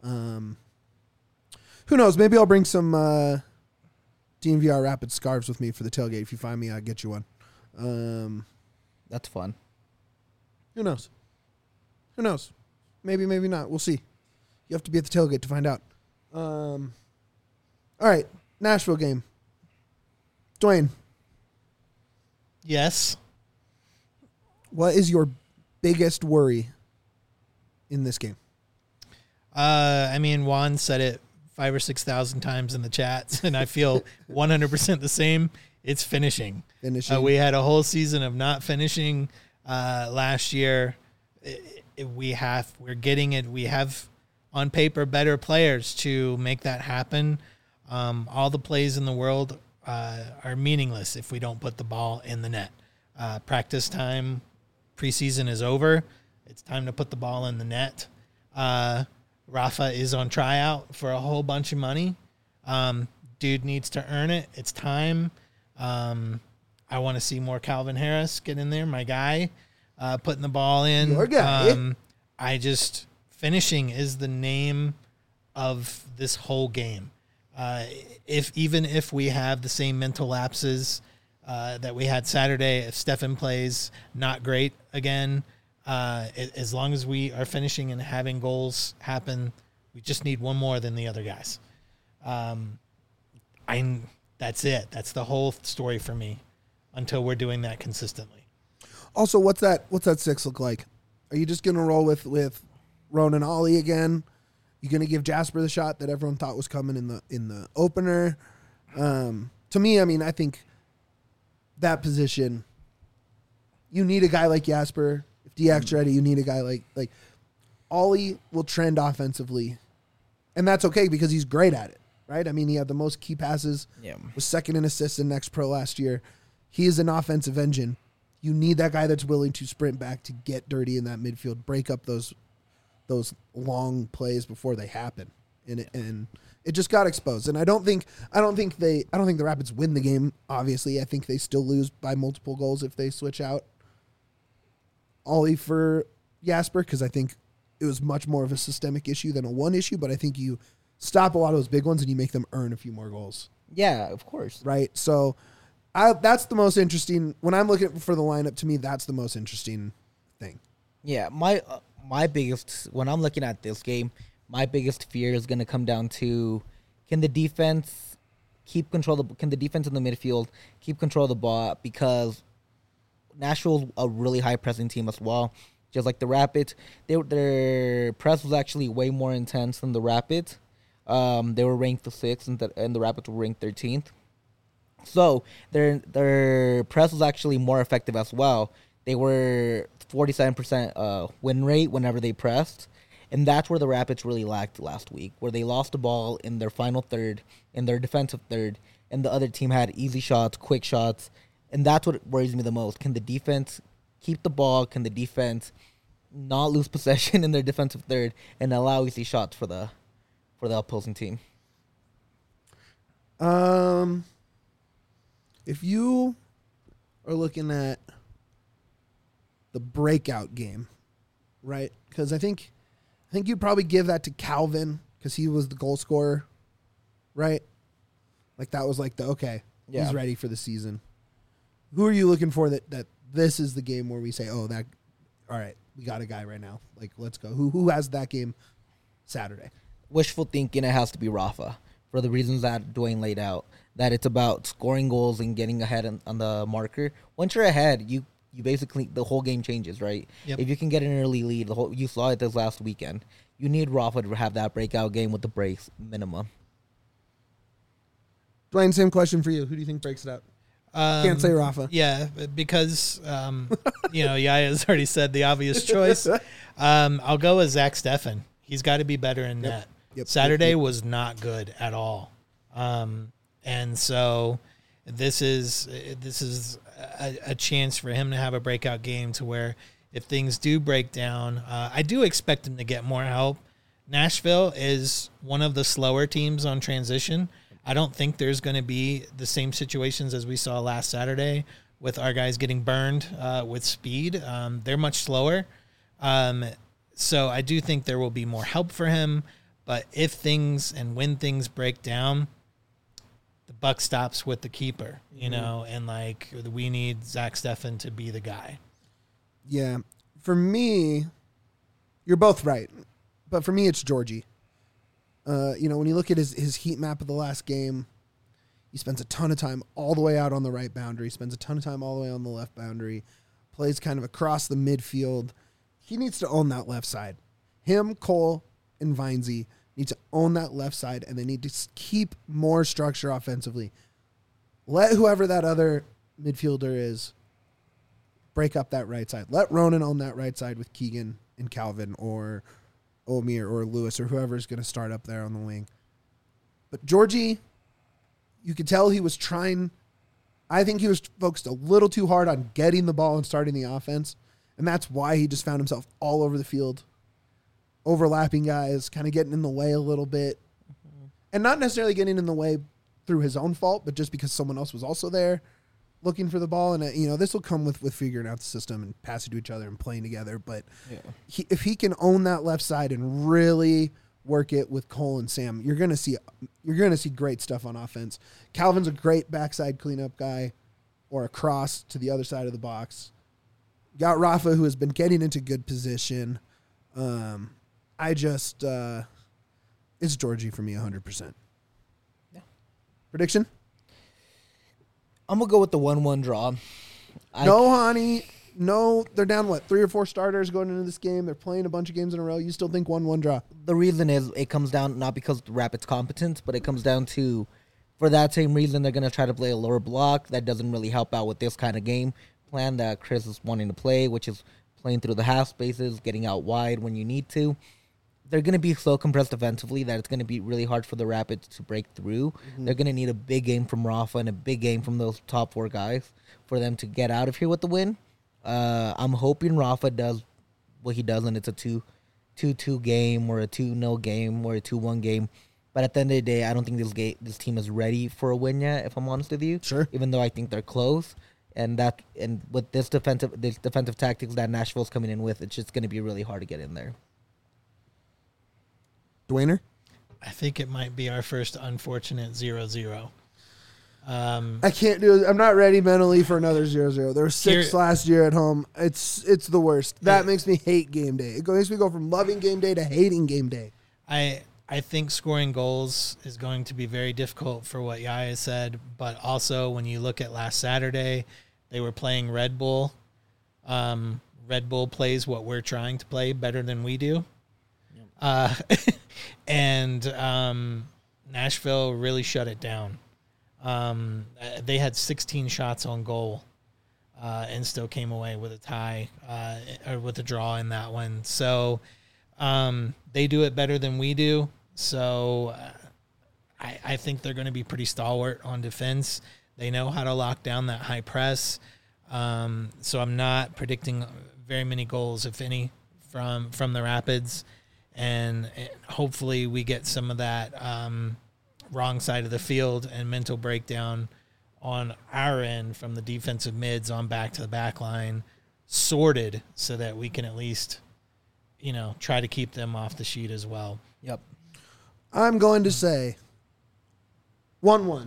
Who knows? Maybe I'll bring some DNVR Rapids scarves with me for the tailgate. If you find me, I'll get you one.
That's fun.
Who knows? Maybe, maybe not. We'll see. You have to be at the tailgate to find out. All right, Nashville game. Dwayne.
Yes.
What is your biggest worry in this game?
Juan said it 5,000 or 6,000 times in the chats, and I feel 100% the same. It's finishing. We had a whole season of not finishing last year. We're getting it. We have on paper better players to make that happen. All the plays in the world are meaningless if we don't put the ball in the net. Practice time, preseason is over. It's time to put the ball in the net. Rafa is on tryout for a whole bunch of money. Dude needs to earn it. It's time. I want to see more Calvin Harris get in there, my guy, putting the ball in.
Your guy.
Finishing is the name of this whole game. Even if we have the same mental lapses that we had Saturday, if Stefan plays not great again, as long as we are finishing and having goals happen, we just need one more than the other guys. That's it. That's the whole story for me until we're doing that consistently.
Also, what's that 6 look like? Are you just going to roll with Ronan Ollie again? You going to give Jasper the shot that everyone thought was coming in the opener? To me, I mean, I think that position, you need a guy like Jasper. If Diak's ready, you need a guy like Ollie will trend offensively, and that's okay because he's great at it, right? I mean, he had the most key passes, was second in assists in Next Pro last year. He is an offensive engine. You need that guy that's willing to sprint back to get dirty in that midfield, break up those long plays before they happen, and it just got exposed. And I don't think the Rapids win the game. Obviously, I think they still lose by multiple goals if they switch out Ollie for Jasper, because I think it was much more of a systemic issue than a one issue. But I think you stop a lot of those big ones and you make them earn a few more goals.
Yeah, of course.
Right. So that's the most interesting. When I'm looking for the lineup, to me, that's the most interesting thing.
Yeah, my biggest, when I'm looking at this game, my biggest fear is going to come down to, can the defense can the defense in the midfield keep control of the ball? Because Nashville's a really high pressing team as well. Just like the Rapids, their press was actually way more intense than the Rapids. They were ranked the 6th, and the Rapids were ranked 13th. So their press was actually more effective as well. They were 47% win rate whenever they pressed. And that's where the Rapids really lacked last week, where they lost the ball in their final third, in their defensive third, and the other team had easy shots, quick shots. And that's what worries me the most. Can the defense keep the ball? Can the defense not lose possession in their defensive third and allow easy shots for the opposing team?
If you are looking at the breakout game, right? Because I think you'd probably give that to Calvin because he was the goal scorer, right? Like that was like he's ready for the season. Who are you looking for that this is the game where we say, all right, we got a guy right now. Like, let's go. Who has that game Saturday?
Wishful thinking, it has to be Rafa for the reasons that Dwayne laid out, that it's about scoring goals and getting ahead on the marker. Once you're ahead, you basically, the whole game changes, right? Yep. If you can get an early lead, you saw it this last weekend. You need Rafa to have that breakout game with the breaks minimum.
Dwayne, same question for you. Who do you think breaks it out? Can't say Rafa.
Yeah, because Yaya's already said the obvious choice. I'll go with Zach Steffen. He's got to be better in net.
Yep.
Saturday was not good at all, and so this is a chance for him to have a breakout game to where if things do break down, I do expect him to get more help. Nashville is one of the slower teams on transition. I don't think there's going to be the same situations as we saw last Saturday with our guys getting burned with speed. They're much slower. So I do think there will be more help for him. But if things and when things break down, the buck stops with the keeper, and we need Zach Steffen to be the guy.
Yeah. For me, you're both right. But for me, it's Georgie. When you look at his heat map of the last game, he spends a ton of time all the way out on the right boundary, spends a ton of time all the way on the left boundary, plays kind of across the midfield. He needs to own that left side. Him, Cole, and Vinesy need to own that left side, and they need to keep more structure offensively. Let whoever that other midfielder is break up that right side. Let Ronan own that right side with Keegan and Calvin or Omir or Lewis or whoever's going to start up there on the wing. But Georgie, you could tell he was trying I think he was focused a little too hard on getting the ball and starting the offense, and that's why he just found himself all over the field, overlapping guys, kind of getting in the way a little bit, and not necessarily getting in the way through his own fault, but just because someone else was also there looking for the ball. And, this will come with figuring out the system and passing to each other and playing together. But if he can own that left side and really work it with Cole and Sam, you're gonna see great stuff on offense. Calvin's a great backside cleanup guy, or a cross to the other side of the box. You got Rafa, who has been getting into good position. It's Georgie for me 100%.
Yeah.
Prediction?
I'm gonna go with the 1-1 draw.
No, Hani. No, they're down, 3 or 4 starters going into this game. They're playing a bunch of games in a row. You still think 1-1 draw?
The reason is it comes down not because of the Rapids' competence, but it comes down to, for that same reason, they're going to try to play a lower block. That doesn't really help out with this kind of game plan that Chris is wanting to play, which is playing through the half spaces, getting out wide when you need to. They're going to be so compressed defensively that it's going to be really hard for the Rapids to break through. Mm-hmm. They're going to need a big game from Rafa and a big game from those top 4 guys for them to get out of here with the win. I'm hoping Rafa does what he does, and it's a 2-2 game or a 2-0 game or a 2-1 game. But at the end of the day, I don't think this team is ready for a win yet, if I'm honest with you.
Sure. Even
though I think they're close. And with this defensive tactics that Nashville's coming in with, it's just going to be really hard to get in there.
Dwayner?
I think it might be our first unfortunate 0-0.
I can't do it. I'm not ready mentally for another 0-0. There were 6 last year at home. It's the worst. That makes me hate game day. It makes me go from loving game day to hating game day.
I think scoring goals is going to be very difficult for what Yaya said, but also when you look at last Saturday, they were playing Red Bull. Red Bull plays what we're trying to play better than we do. And Nashville really shut it down. They had 16 shots on goal and still came away with a tie or with a draw in that one. So they do it better than we do. So I think they're going to be pretty stalwart on defense. They know how to lock down that high press. So I'm not predicting very many goals, if any, from the Rapids. And hopefully we get some of that wrong side of the field and mental breakdown on our end from the defensive mids on back to the back line sorted so that we can at least, try to keep them off the sheet as well.
Yep.
I'm going to say 1-1.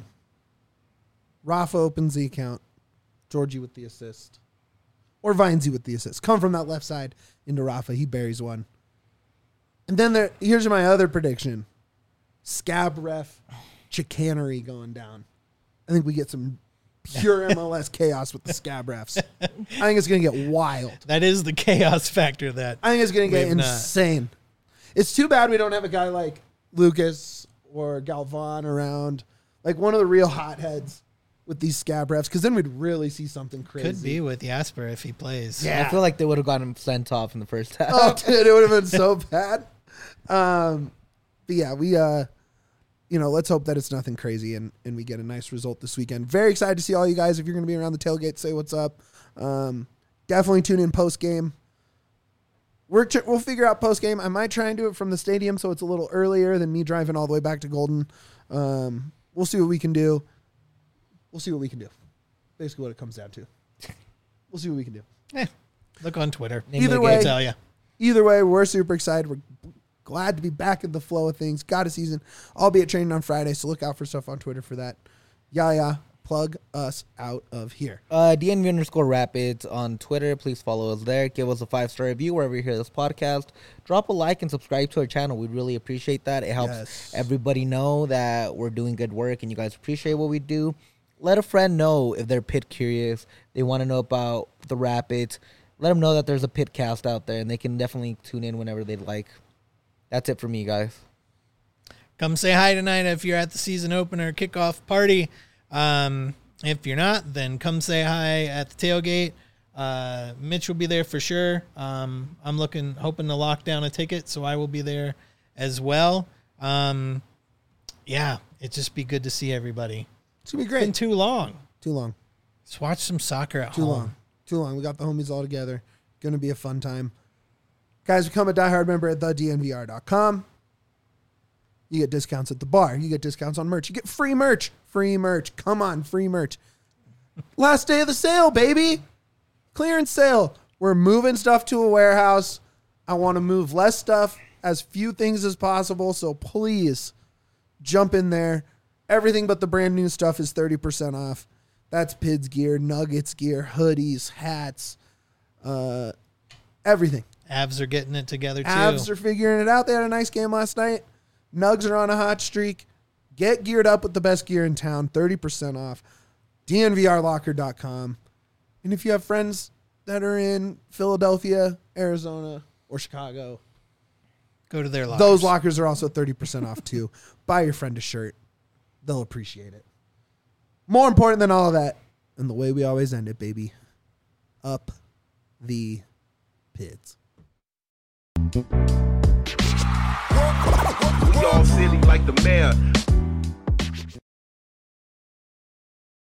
Rafa opens the account. Georgie with the assist. Or Vinesy with the assist. Come from that left side into Rafa. He buries one. And then here's my other prediction. Scab ref chicanery going down. I think we get some pure MLS chaos with the scab refs. I think it's going to get wild.
That is the chaos factor that
I think it's going to get insane. It's too bad we don't have a guy like Lucas or Galvan around, like one of the real hotheads with these scab refs, because then we'd really see something crazy.
Could be with Jasper if he plays.
Yeah. I feel like they would have gotten him sent off in the first half.
Oh, dude, it would have been so bad. But yeah, we let's hope that it's nothing crazy and we get a nice result this weekend. Very excited to see all you guys. If you're going to be around the tailgate, say what's up. Definitely tune in post game. We'll figure out post game. I might try and do it from the stadium so it's a little earlier than me driving all the way back to Golden. We'll see what we can do. Basically what it comes down to. We'll see what we can do.
Look on Twitter.
Either way,
tell you.
Either way, we're super excited. We're glad to be back in the flow of things. Got a season. I'll be at training on Friday, so look out for stuff on Twitter for that. Yeah. Plug us out of here.
DNV_Rapids on Twitter. Please follow us there. Give us a 5-star review wherever you hear this podcast. Drop a like and subscribe to our channel. We'd really appreciate that. It helps everybody know that we're doing good work and you guys appreciate what we do. Let a friend know if they're pit curious. They want to know about the Rapids. Let them know that there's a Pitcast out there, and they can definitely tune in whenever they'd like. That's it for me, guys.
Come say hi tonight if you're at the season opener kickoff party. If you're not, then come say hi at the tailgate. Mitch will be there for sure. I'm hoping to lock down a ticket, so I will be there as well. It'd just be good to see everybody.
It's going to be great.
It's been too long.
Too long.
Let's watch some soccer at
Too
home.
Too long. We got the homies all together. Going to be a fun time. Guys, become a diehard member at thednvr.com. You get discounts at the bar. You get discounts on merch. You get free merch. Free merch. Come on, free merch. Last day of the sale, baby. Clearance sale. We're moving stuff to a warehouse. I want to move less stuff, as few things as possible. So please jump in there. Everything but the brand new stuff is 30% off. That's Pids gear, Nuggets gear, hoodies, hats, everything.
Avs are getting it together too.
Avs are figuring it out. They had a nice game last night. Nugs are on a hot streak. Get geared up with the best gear in town. 30% off. DNVRlocker.com. And if you have friends that are in Philadelphia, Arizona, or Chicago,
go to their lockers.
Those lockers are also 30% off too. Buy your friend a shirt. They'll appreciate it. More important than all of that, and the way we always end it, baby, up the Pids.
We all silly like the mayor.